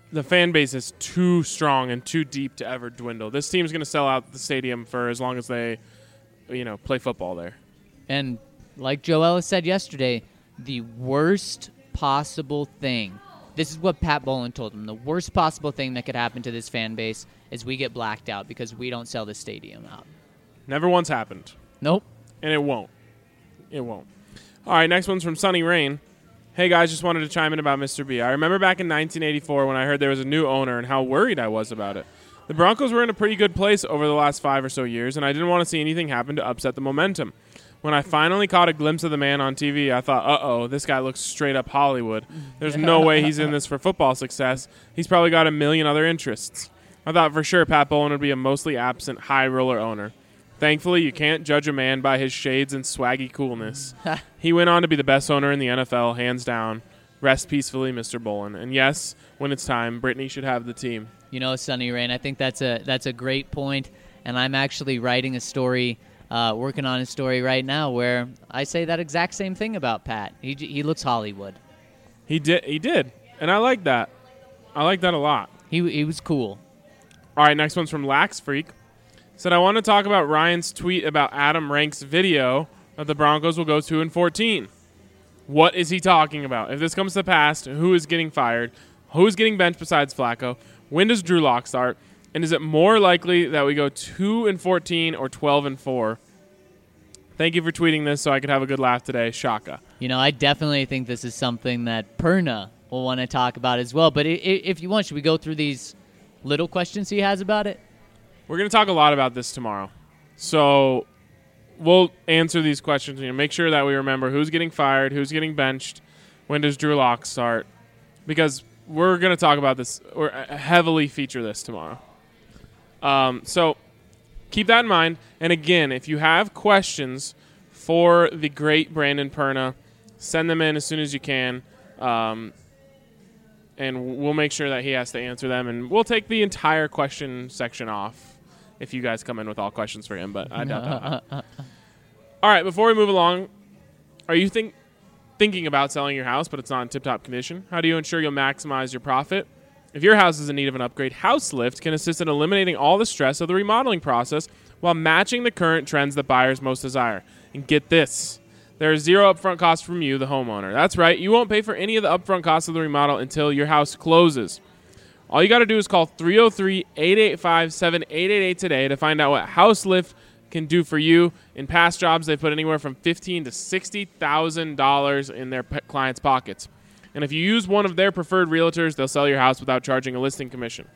the fan base is too strong and too deep to ever dwindle. This team's going to sell out the stadium for as long as they, you know, play football there. And like Joe Ellis said yesterday, the worst possible thing, this is what Pat Bowlen told him, the worst possible thing that could happen to this fan base is we get blacked out because we don't sell the stadium out. Never once happened. Nope. And it won't. It won't. All right, next one's from Sunny Rain. Hey, guys, just wanted to chime in about Mister B. I remember back in nineteen eighty-four when I heard there was a new owner and how worried I was about it. The Broncos were in a pretty good place over the last five or so years, and I didn't want to see anything happen to upset the momentum. When I finally caught a glimpse of the man on T V, I thought, uh-oh, this guy looks straight up Hollywood. There's no way he's in this for football success. He's probably got a million other interests. I thought for sure Pat Bowlen would be a mostly absent, high-roller owner. Thankfully, you can't judge a man by his shades and swaggy coolness. He went on to be the best owner in the N F L, hands down. Rest peacefully, Mister Bowlen. And yes, when it's time, Brittany should have the team. You know, Sunny Rain, I think that's a that's a great point, and I'm actually writing a story, uh, working on a story right now where I say that exact same thing about Pat. He he looks Hollywood. He did, he did, and I like that. I like that a lot. He he was cool. All right, next one's from Lax Freak. Said, I want to talk about Ryan's tweet about Adam Rank's video that the Broncos will go two and fourteen. What is he talking about? If this comes to pass, who is getting fired? Who is getting benched besides Flacco? When does Drew Lock start? And is it more likely that we go two and fourteen or twelve and four? Thank you for tweeting this so I could have a good laugh today. Shaka. You know, I definitely think this is something that Perna will want to talk about as well. But i- i- if you want, should we go through these little questions he has about it? We're going to talk a lot about this tomorrow. So we'll answer these questions. You know, make sure that we remember who's getting fired, who's getting benched, when does Drew Lock start, because we're going to talk about this or heavily feature this tomorrow. Um, so keep that in mind. And again, if you have questions for the great Brandon Perna, send them in as soon as you can. Um, and we'll make sure that he has to answer them. And we'll take the entire question section off if you guys come in with all questions for him. But I doubt that. All right, before we move along, are you think thinking about selling your house, but it's not in tip-top condition? How do you ensure you'll maximize your profit? If your house is in need of an upgrade, HouseLift can assist in eliminating all the stress of the remodeling process while matching the current trends that buyers most desire. And get this, there is zero upfront cost from you, the homeowner. That's right, you won't pay for any of the upfront costs of the remodel until your house closes. All you got to do is call three oh three, eight eight five, seven eight eight eight today to find out what HouseLift can do for you. In past jobs, they've put anywhere from fifteen thousand to sixty thousand dollars in their p- clients' pockets. And if you use one of their preferred realtors, they'll sell your house without charging a listing commission.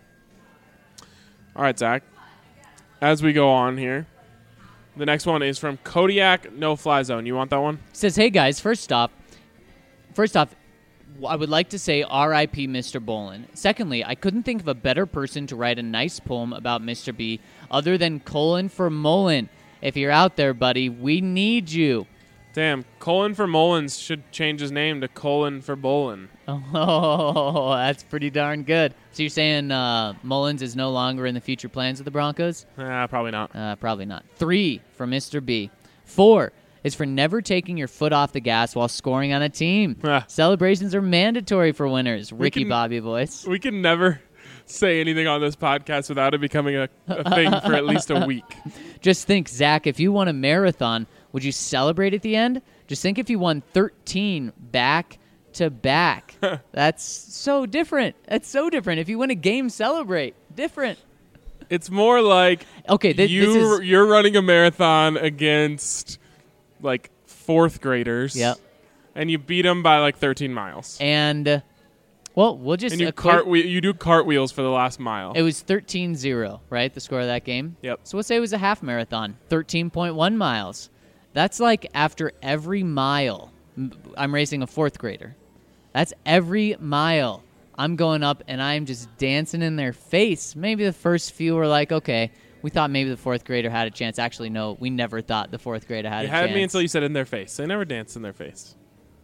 All right, Zach. As we go on here, the next one is from Kodiak No Fly Zone. You want that one? Says, hey guys, first off, first off, I would like to say R I P Mister Bowlen. Secondly, I couldn't think of a better person to write a nice poem about Mister B other than Colin for Mullen. If you're out there, buddy, we need you. Damn, Colin for Mullins should change his name to Colin for Bolin. Oh, that's pretty darn good. So you're saying uh, Mullins is no longer in the future plans of the Broncos? Ah, probably not. Uh, probably not. Three for Mister B. Four is for never taking your foot off the gas while scoring on a team. Ah. Celebrations are mandatory for winners. We Ricky can- Bobby voice. We can never say anything on this podcast without it becoming a, a thing for at least a week. Just think, Zach, if you won a marathon, would you celebrate at the end? Just think if you won thirteen back to back. That's so different. That's so different. If you win a game, celebrate. Different. It's more like Okay, thi- you, this is... you're running a marathon against like fourth graders. Yep. And you beat them by like thirteen miles. And, uh, well, we'll just... And you, equate- cartwheel, you do cartwheels for the last mile. It was thirteen zero, right, the score of that game? Yep. So let's say it was a half marathon, thirteen point one miles. That's like after every mile, m- I'm racing a fourth grader. That's every mile. I'm going up, and I'm just dancing in their face. Maybe the first few were like, okay, we thought maybe the fourth grader had a chance. Actually, no, we never thought the fourth grader had you a had chance. me until you said in their face. They never danced in their face.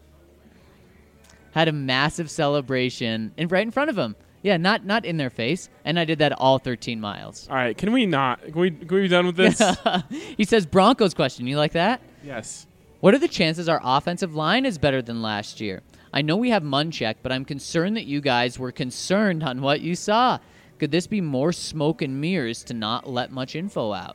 Had a massive celebration in, right in front of them. Yeah, not not in their face. And I did that all thirteen miles. All right, can we not? Can we, can we be done with this? He says, Broncos question. You like that? Yes. What are the chances our offensive line is better than last year? I know we have Munchak, but I'm concerned that you guys were concerned on what you saw. Could this be more smoke and mirrors to not let much info out?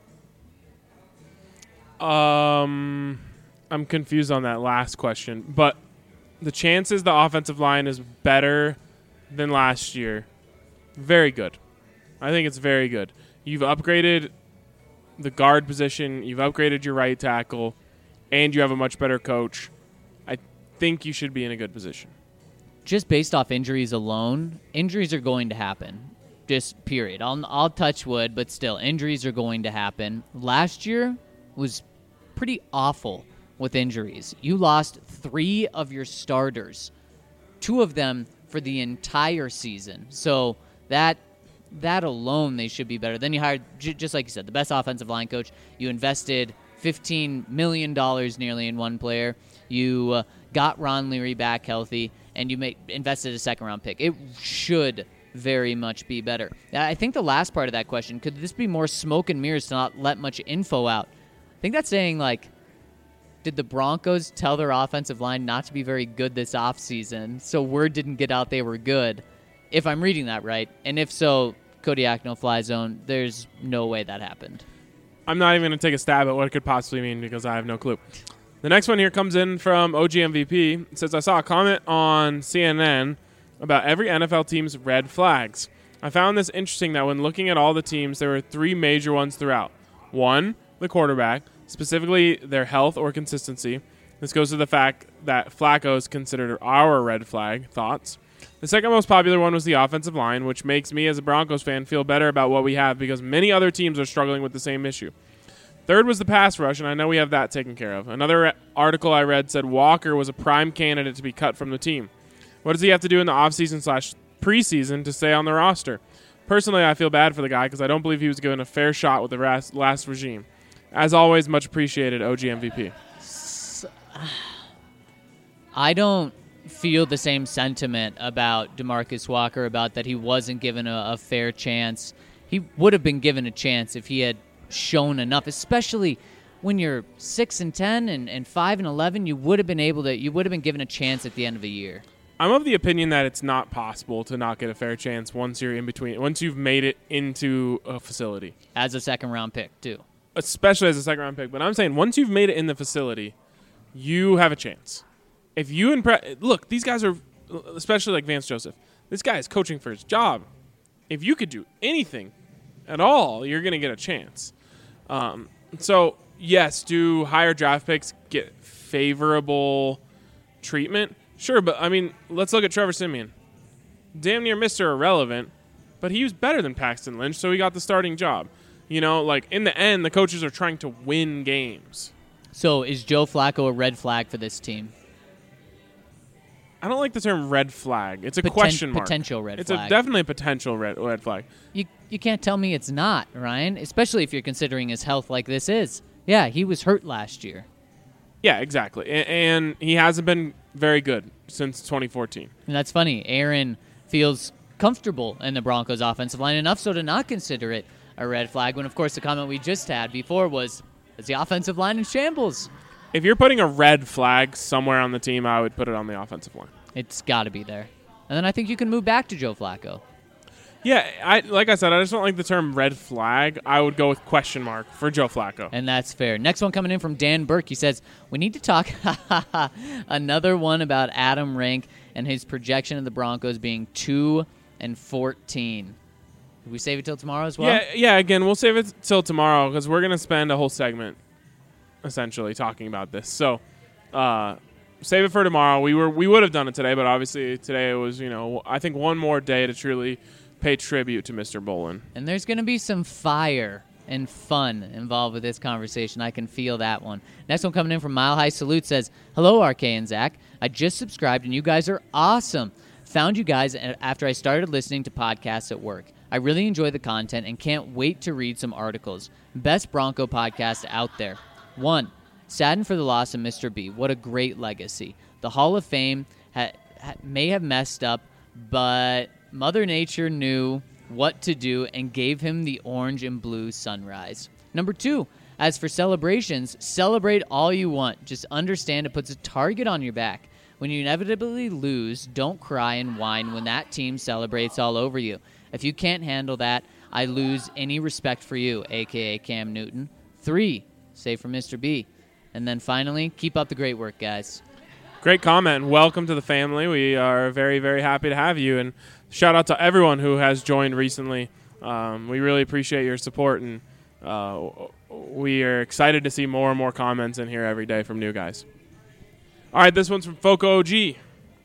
Um, I'm confused on that last question, but the chances the offensive line is better than last year, very good. I think it's very good. You've upgraded the guard position, you've upgraded your right tackle, and you have a much better coach. I think you should be in a good position. Just based off injuries alone, injuries are going to happen. Just period. I'll, I'll touch wood, but still, injuries are going to happen. Last year was pretty awful with injuries. You lost three of your starters, two of them for the entire season. So that that alone, they should be better. Then you hired, j- just like you said, the best offensive line coach. You invested fifteen million dollars nearly in one player. You uh, got Ron Leary back healthy, and you made, invested a second-round pick. It should very much be better. I think the last part of that question, could this be more smoke and mirrors to not let much info out? I think that's saying, like, did the Broncos tell their offensive line not to be very good this offseason, so word didn't get out they were good? If I'm reading that right. And if so, Kodiak, no fly zone, there's no way that happened. I'm not even going to take a stab at what it could possibly mean because I have no clue. The next one here comes in from O G M V P. It says, I saw a comment on C N N about every N F L team's red flags. I found this interesting that when looking at all the teams, there were three major ones throughout. One, the quarterback, specifically their health or consistency. This goes to the fact that Flacco is considered our red flag. Thoughts? The second most popular one was the offensive line, which makes me as a Broncos fan feel better about what we have because many other teams are struggling with the same issue. Third was the pass rush, and I know we have that taken care of. Another article I read said Walker was a prime candidate to be cut from the team. What does he have to do in the offseason slash preseason to stay on the roster? Personally, I feel bad for the guy because I don't believe he was given a fair shot with the last, last regime. As always, much appreciated, O G M V P. I don't feel the same sentiment about DeMarcus Walker, about that he wasn't given a, a fair chance. He would have been given a chance if he had shown enough, especially when you're six and ten and, and five and eleven. You would have been able to. You would have been given a chance at the end of the year. I'm of the opinion that it's not possible to not get a fair chance once you're in between, once you've made it into a facility. As a second round pick, too. Especially as a second round pick. But I'm saying once you've made it in the facility, you have a chance. If you impress, look, these guys are, especially like Vance Joseph, this guy is coaching for his job. If you could do anything at all, you're going to get a chance. Um, so, yes, do higher draft picks get favorable treatment? Sure, but, I mean, let's look at Trevor Siemian. Damn near Mister Irrelevant, but he was better than Paxton Lynch, so he got the starting job. You know, like, in the end, the coaches are trying to win games. So, is Joe Flacco a red flag for this team? I don't like the term red flag. It's a Poten- question mark. Potential red it's flag. It's definitely a potential red, red flag. You you can't tell me it's not, Ryan, especially if you're considering his health like this is. Yeah, he was hurt last year. Yeah, exactly. And, and he hasn't been very good since twenty fourteen. And that's funny. Aaron feels comfortable in the Broncos' offensive line, enough so to not consider it a red flag, when, of course, the comment we just had before was, is the offensive line in shambles? If you're putting a red flag somewhere on the team, I would put it on the offensive line. It's got to be there. And then I think you can move back to Joe Flacco. Yeah, I like I said, I just don't like the term red flag. I would go with question mark for Joe Flacco. And that's fair. Next one coming in from Dan Burke. He says, we need to talk another one about Adam Rank and his projection of the Broncos being two and fourteen. Did we save it till tomorrow as well? Yeah, yeah. Again, we'll save it till tomorrow because we're going to spend a whole segment essentially talking about this. So, uh, save it for tomorrow. We were we would have done it today, but obviously today it was, you know, I think one more day to truly pay tribute to Mister Bolin. And there's going to be some fire and fun involved with this conversation. I can feel that one. Next one coming in from Mile High Salute says, hello, R K and Zach. I just subscribed, and you guys are awesome. Found you guys after I started listening to podcasts at work. I really enjoy the content and can't wait to read some articles. Best Bronco podcast out there. One, saddened for the loss of Mister B. What a great legacy. The Hall of Fame ha- ha- may have messed up, but Mother Nature knew what to do and gave him the orange and blue sunrise. Number two, as for celebrations, celebrate all you want. Just understand it puts a target on your back. When you inevitably lose, don't cry and whine when that team celebrates all over you. If you can't handle that, I lose any respect for you, a k a. Cam Newton. Three, say for Mister B. And then finally, keep up the great work, guys. Great comment. Welcome to the family. We are very, very happy to have you. And shout out to everyone who has joined recently. Um, we really appreciate your support, and uh, we are excited to see more and more comments in here every day from new guys. All right, this one's from Foco O G.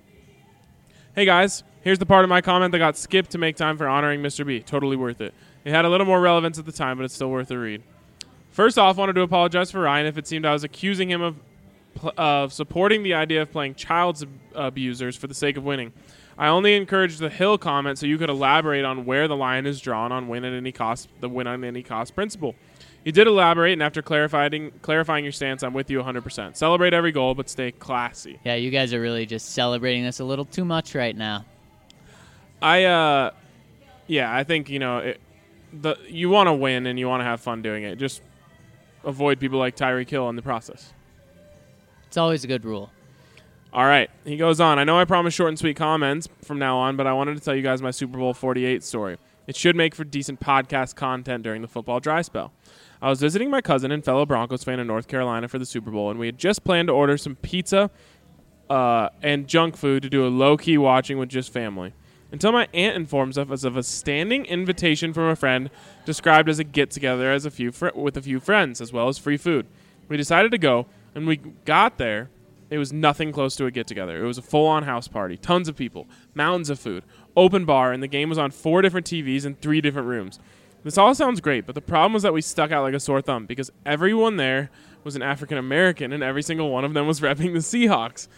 Hey, guys. Here's the part of my comment that got skipped to make time for honoring Mister B. Totally worth it. It had a little more relevance at the time, but it's still worth a read. First off, wanted to apologize for Ryan if it seemed I was accusing him of of supporting the idea of playing child abusers for the sake of winning. I only encouraged the Hill comment so you could elaborate on where the line is drawn on win at any cost, the win on any cost principle. You did elaborate, and after clarifying clarifying your stance, I'm with you one hundred percent. Celebrate every goal, but stay classy. Yeah, you guys are really just celebrating this a little too much right now. I, uh, yeah, I think, you know, it, the you want to win and you want to have fun doing it. Just avoid people like Tyreek Hill in the process. It's always a good rule. All right. He goes on. I know I promised short and sweet comments from now on, but I wanted to tell you guys my Super Bowl forty-eight story. It should make for decent podcast content during the football dry spell. I was visiting my cousin and fellow Broncos fan in North Carolina for the Super Bowl, and we had just planned to order some pizza uh, and junk food to do a low-key watching with just family. Until my aunt informs us of a standing invitation from a friend described as a get-together as a few fr- with a few friends, as well as free food. We decided to go. When we got there, it was nothing close to a get-together. It was a full-on house party, tons of people, mountains of food, open bar, and the game was on four different T Vs in three different rooms. This all sounds great, but the problem was that we stuck out like a sore thumb because everyone there was an African-American, and every single one of them was repping the Seahawks.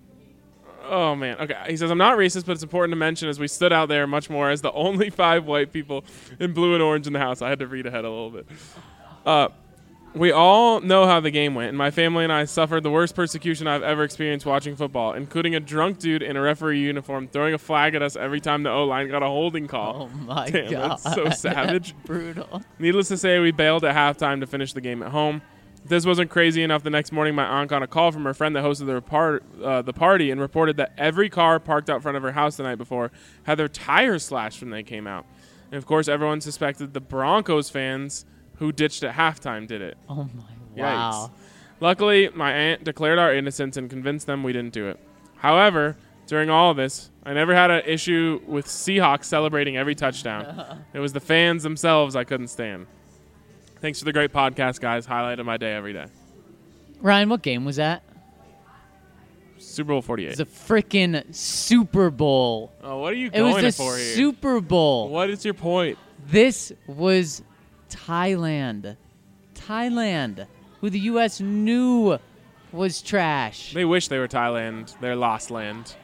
Oh, man. Okay, he says, I'm not racist, but it's important to mention as we stood out there much more as the only five white people in blue and orange in the house. I had to read ahead a little bit. Uh... We all know how the game went, and my family and I suffered the worst persecution I've ever experienced watching football, including a drunk dude in a referee uniform throwing a flag at us every time the O-line got a holding call. Oh, my Damn, God. that's so savage. That's brutal. Needless to say, we bailed at halftime to finish the game at home. If this wasn't crazy enough, the next morning my aunt got a call from her friend that hosted the, repart- uh, the party and reported that every car parked out front of her house the night before had their tires slashed when they came out. And, of course, everyone suspected the Broncos fans who ditched at halftime did it. Oh, my. Wow. Yikes. Luckily, my aunt declared our innocence and convinced them we didn't do it. However, during all of this, I never had an issue with Seahawks celebrating every touchdown. It was the fans themselves I couldn't stand. Thanks for the great podcast, guys. Highlight of my day every day. Ryan, what game was that? Super Bowl forty-eight. It's a freaking Super Bowl. Oh, what are you It was going the for here? Super Bowl. What is your point? This was Thailand. Thailand, who the U S knew was trash. They wish they were Thailand. They're lost land.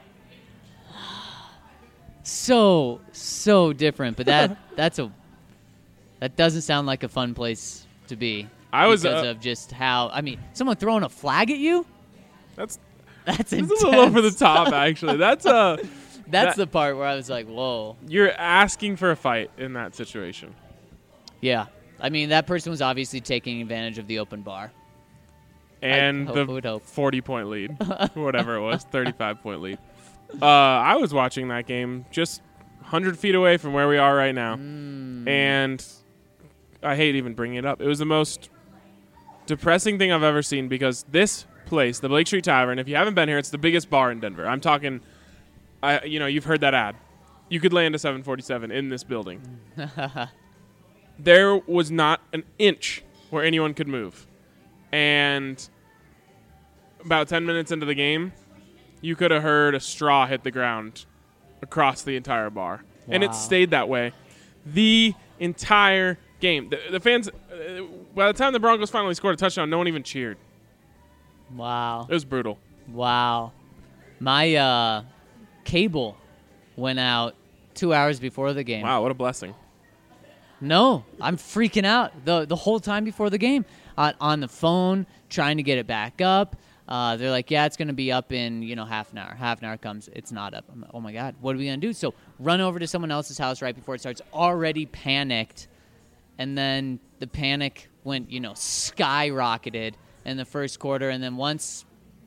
So, so different, but that that's a that doesn't sound like a fun place to be. I was because uh, of just how I mean, someone throwing a flag at you. That's That's that's intense. a little over the top, actually. That's uh That's that- the part where I was like, "Whoa." You're asking for a fight in that situation. Yeah, I mean that person was obviously taking advantage of the open bar. And hope- the would hope. forty-point lead, or whatever it was, thirty-five point lead. Uh, I was watching that game just one hundred feet away from where we are right now. Mm. And I hate even bringing it up. It was the most depressing thing I've ever seen because this place, the Blake Street Tavern, if you haven't been here, it's the biggest bar in Denver. I'm talking, I, you know, you've heard that ad. You could land a seven forty-seven in this building. There was not an inch where anyone could move. And about ten minutes into the game, you could have heard a straw hit the ground across the entire bar. Wow. And it stayed that way the entire game. The, the fans, uh, by the time the Broncos finally scored a touchdown, no one even cheered. Wow. It was brutal. Wow. My uh, cable went out two hours before the game. Wow, what a blessing. No, I'm freaking out the the whole time before the game. Uh, on the phone, trying to get it back up. Uh, they're like, yeah, it's going to be up in, you know, half an hour. Half an hour comes, it's not up. I'm like, oh, my God, what are we going to do? So run over to someone else's house right before it starts, already panicked. And then the panic went, you know, skyrocketed in the first quarter. And then once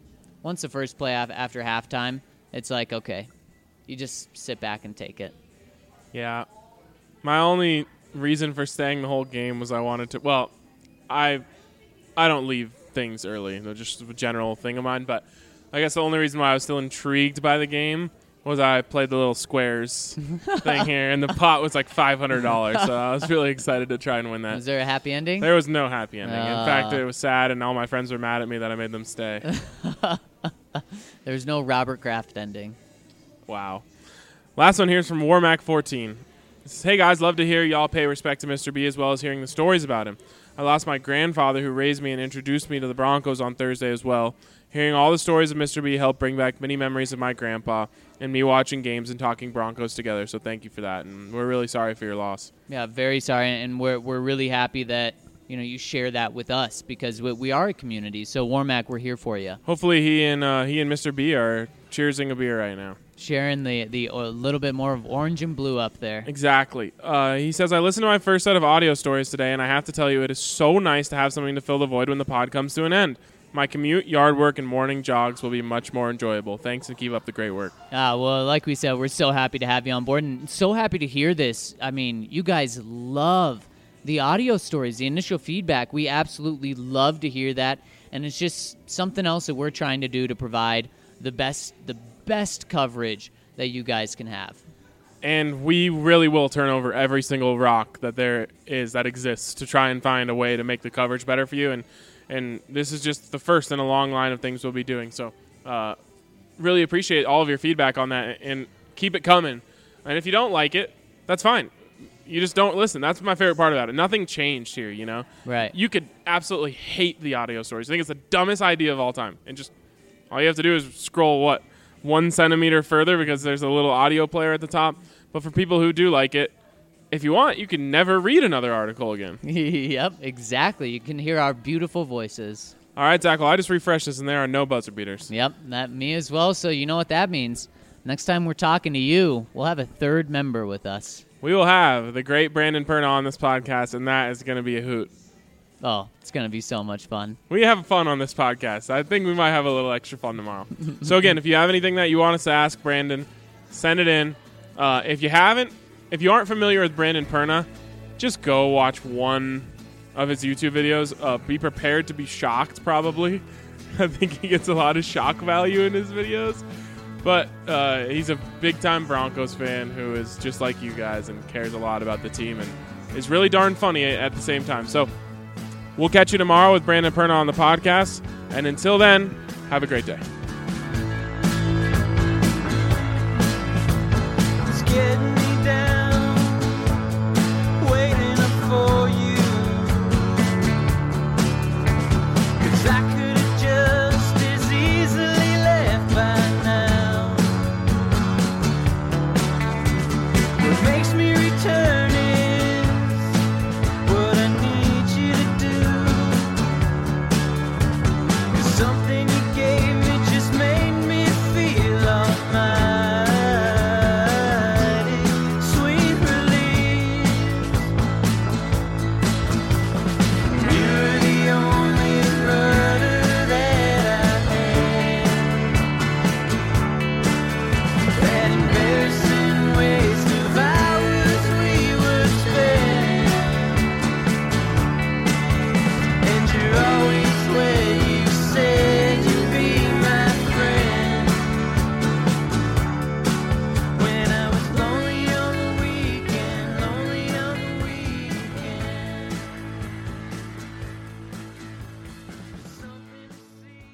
once the first play af- after halftime, it's like, okay, you just sit back and take it. Yeah. My only reason for staying the whole game was I wanted to, well, I I don't leave things early. They're just a general thing of mine, but I guess the only reason why I was still intrigued by the game was I played the little squares thing here, and the pot was like five hundred dollars, so I was really excited to try and win that. Was there a happy ending? There was no happy ending. Uh. In fact, it was sad, and all my friends were mad at me that I made them stay. There's no Robert Kraft ending. Wow. Last one here is from Warmac fourteen. It says, hey, guys, love to hear y'all pay respect to Mister B as well as hearing the stories about him. I lost my grandfather who raised me and introduced me to the Broncos on Thursday as well. Hearing all the stories of Mister B helped bring back many memories of my grandpa and me watching games and talking Broncos together, so thank you for that, and we're really sorry for your loss. Yeah, very sorry, and we're we're really happy that you know you share that with us because we, we are a community. So Warmac, we're here for you. Hopefully he and uh, he and Mister B are cheersing a beer right now. Sharing the the a little bit more of orange and blue up there. Exactly. Uh, he says, I listened to my first set of audio stories today, and I have to tell you, it is so nice to have something to fill the void when the pod comes to an end. My commute, yard work, and morning jogs will be much more enjoyable. Thanks, and keep up the great work. Ah, well, like we said, we're so happy to have you on board, and so happy to hear this. I mean, you guys love the audio stories, the initial feedback. We absolutely love to hear that, and it's just something else that we're trying to do to provide the best, the best coverage that you guys can have. And we really will turn over every single rock that there is that exists to try and find a way to make the coverage better for you. And and this is just the first in a long line of things we'll be doing. So uh, really appreciate all of your feedback on that, and keep it coming. And if you don't like it, that's fine. You just don't listen. That's my favorite part about it. Nothing changed here, you know? Right. You could absolutely hate the audio stories. I think it's the dumbest idea of all time. And just all you have to do is scroll, what, one centimeter further because there's a little audio player at the top. But for people who do like it, if you want, you can never read another article again. Yep, exactly. You can hear our beautiful voices. All right, Zach, well, I just refreshed this, and there are no buzzer beaters. Yep, that me as well. So you know what that means. Next time we're talking to you, we'll have a third member with us. We will have the great Brandon Perna on this podcast, and that is going to be a hoot. Oh, it's going to be so much fun. We have fun on this podcast. I think we might have a little extra fun tomorrow. So, again, if you have anything that you want us to ask Brandon, send it in. Uh, if you haven't, if you aren't familiar with Brandon Perna, just go watch one of his YouTube videos. Uh, be prepared to be shocked, probably. I think he gets a lot of shock value in his videos. But uh, he's a big-time Broncos fan who is just like you guys and cares a lot about the team and is really darn funny at the same time. So we'll catch you tomorrow with Brandon Perna on the podcast. And until then, have a great day. It's getting me down, waiting up for you. 'Cause I could have just as easily left by now. What makes me return is what I need you to do. 'Cause something you gave me just made me feel almighty. Sweet relief. You're the only rudder that I had. That embarrassing waste of hours we would spend. And you're always where you said you'd be my friend. When I was lonely on the weekend, lonely on the weekend. Something to see.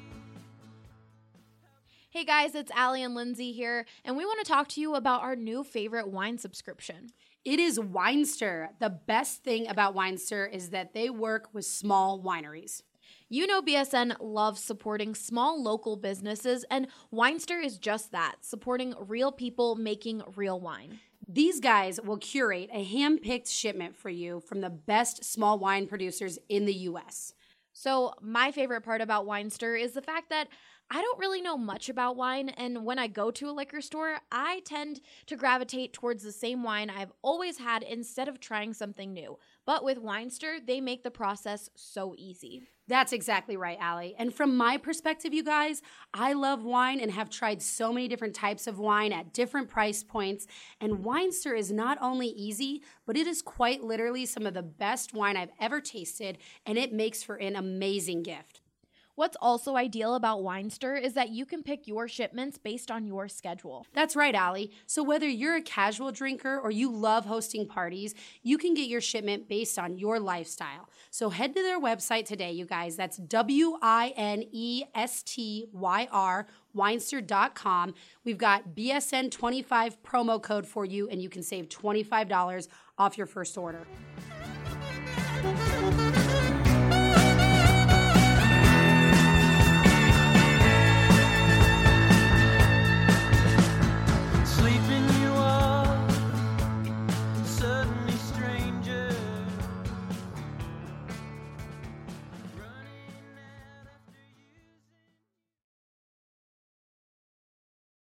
Hey guys, it's Allie and Lindsay here, and we want to talk to you about our new favorite wine subscription. It is Winester. The best thing about Winester is that they work with small wineries. You know B S N loves supporting small local businesses, and Winester is just that, supporting real people making real wine. These guys will curate a hand-picked shipment for you from the best small wine producers in the U S. So my favorite part about Winester is the fact that I don't really know much about wine, and when I go to a liquor store, I tend to gravitate towards the same wine I've always had instead of trying something new. But with Winester, they make the process so easy. That's exactly right, Allie. And from my perspective, you guys, I love wine and have tried so many different types of wine at different price points. And Winester is not only easy, but it is quite literally some of the best wine I've ever tasted, and it makes for an amazing gift. What's also ideal about Winester is that you can pick your shipments based on your schedule. That's right, Allie. So whether you're a casual drinker or you love hosting parties, you can get your shipment based on your lifestyle. So head to their website today, you guys. That's W I N E S T Y R, winester dot com. We've got B S N twenty-five promo code for you, and you can save twenty-five dollars off your first order.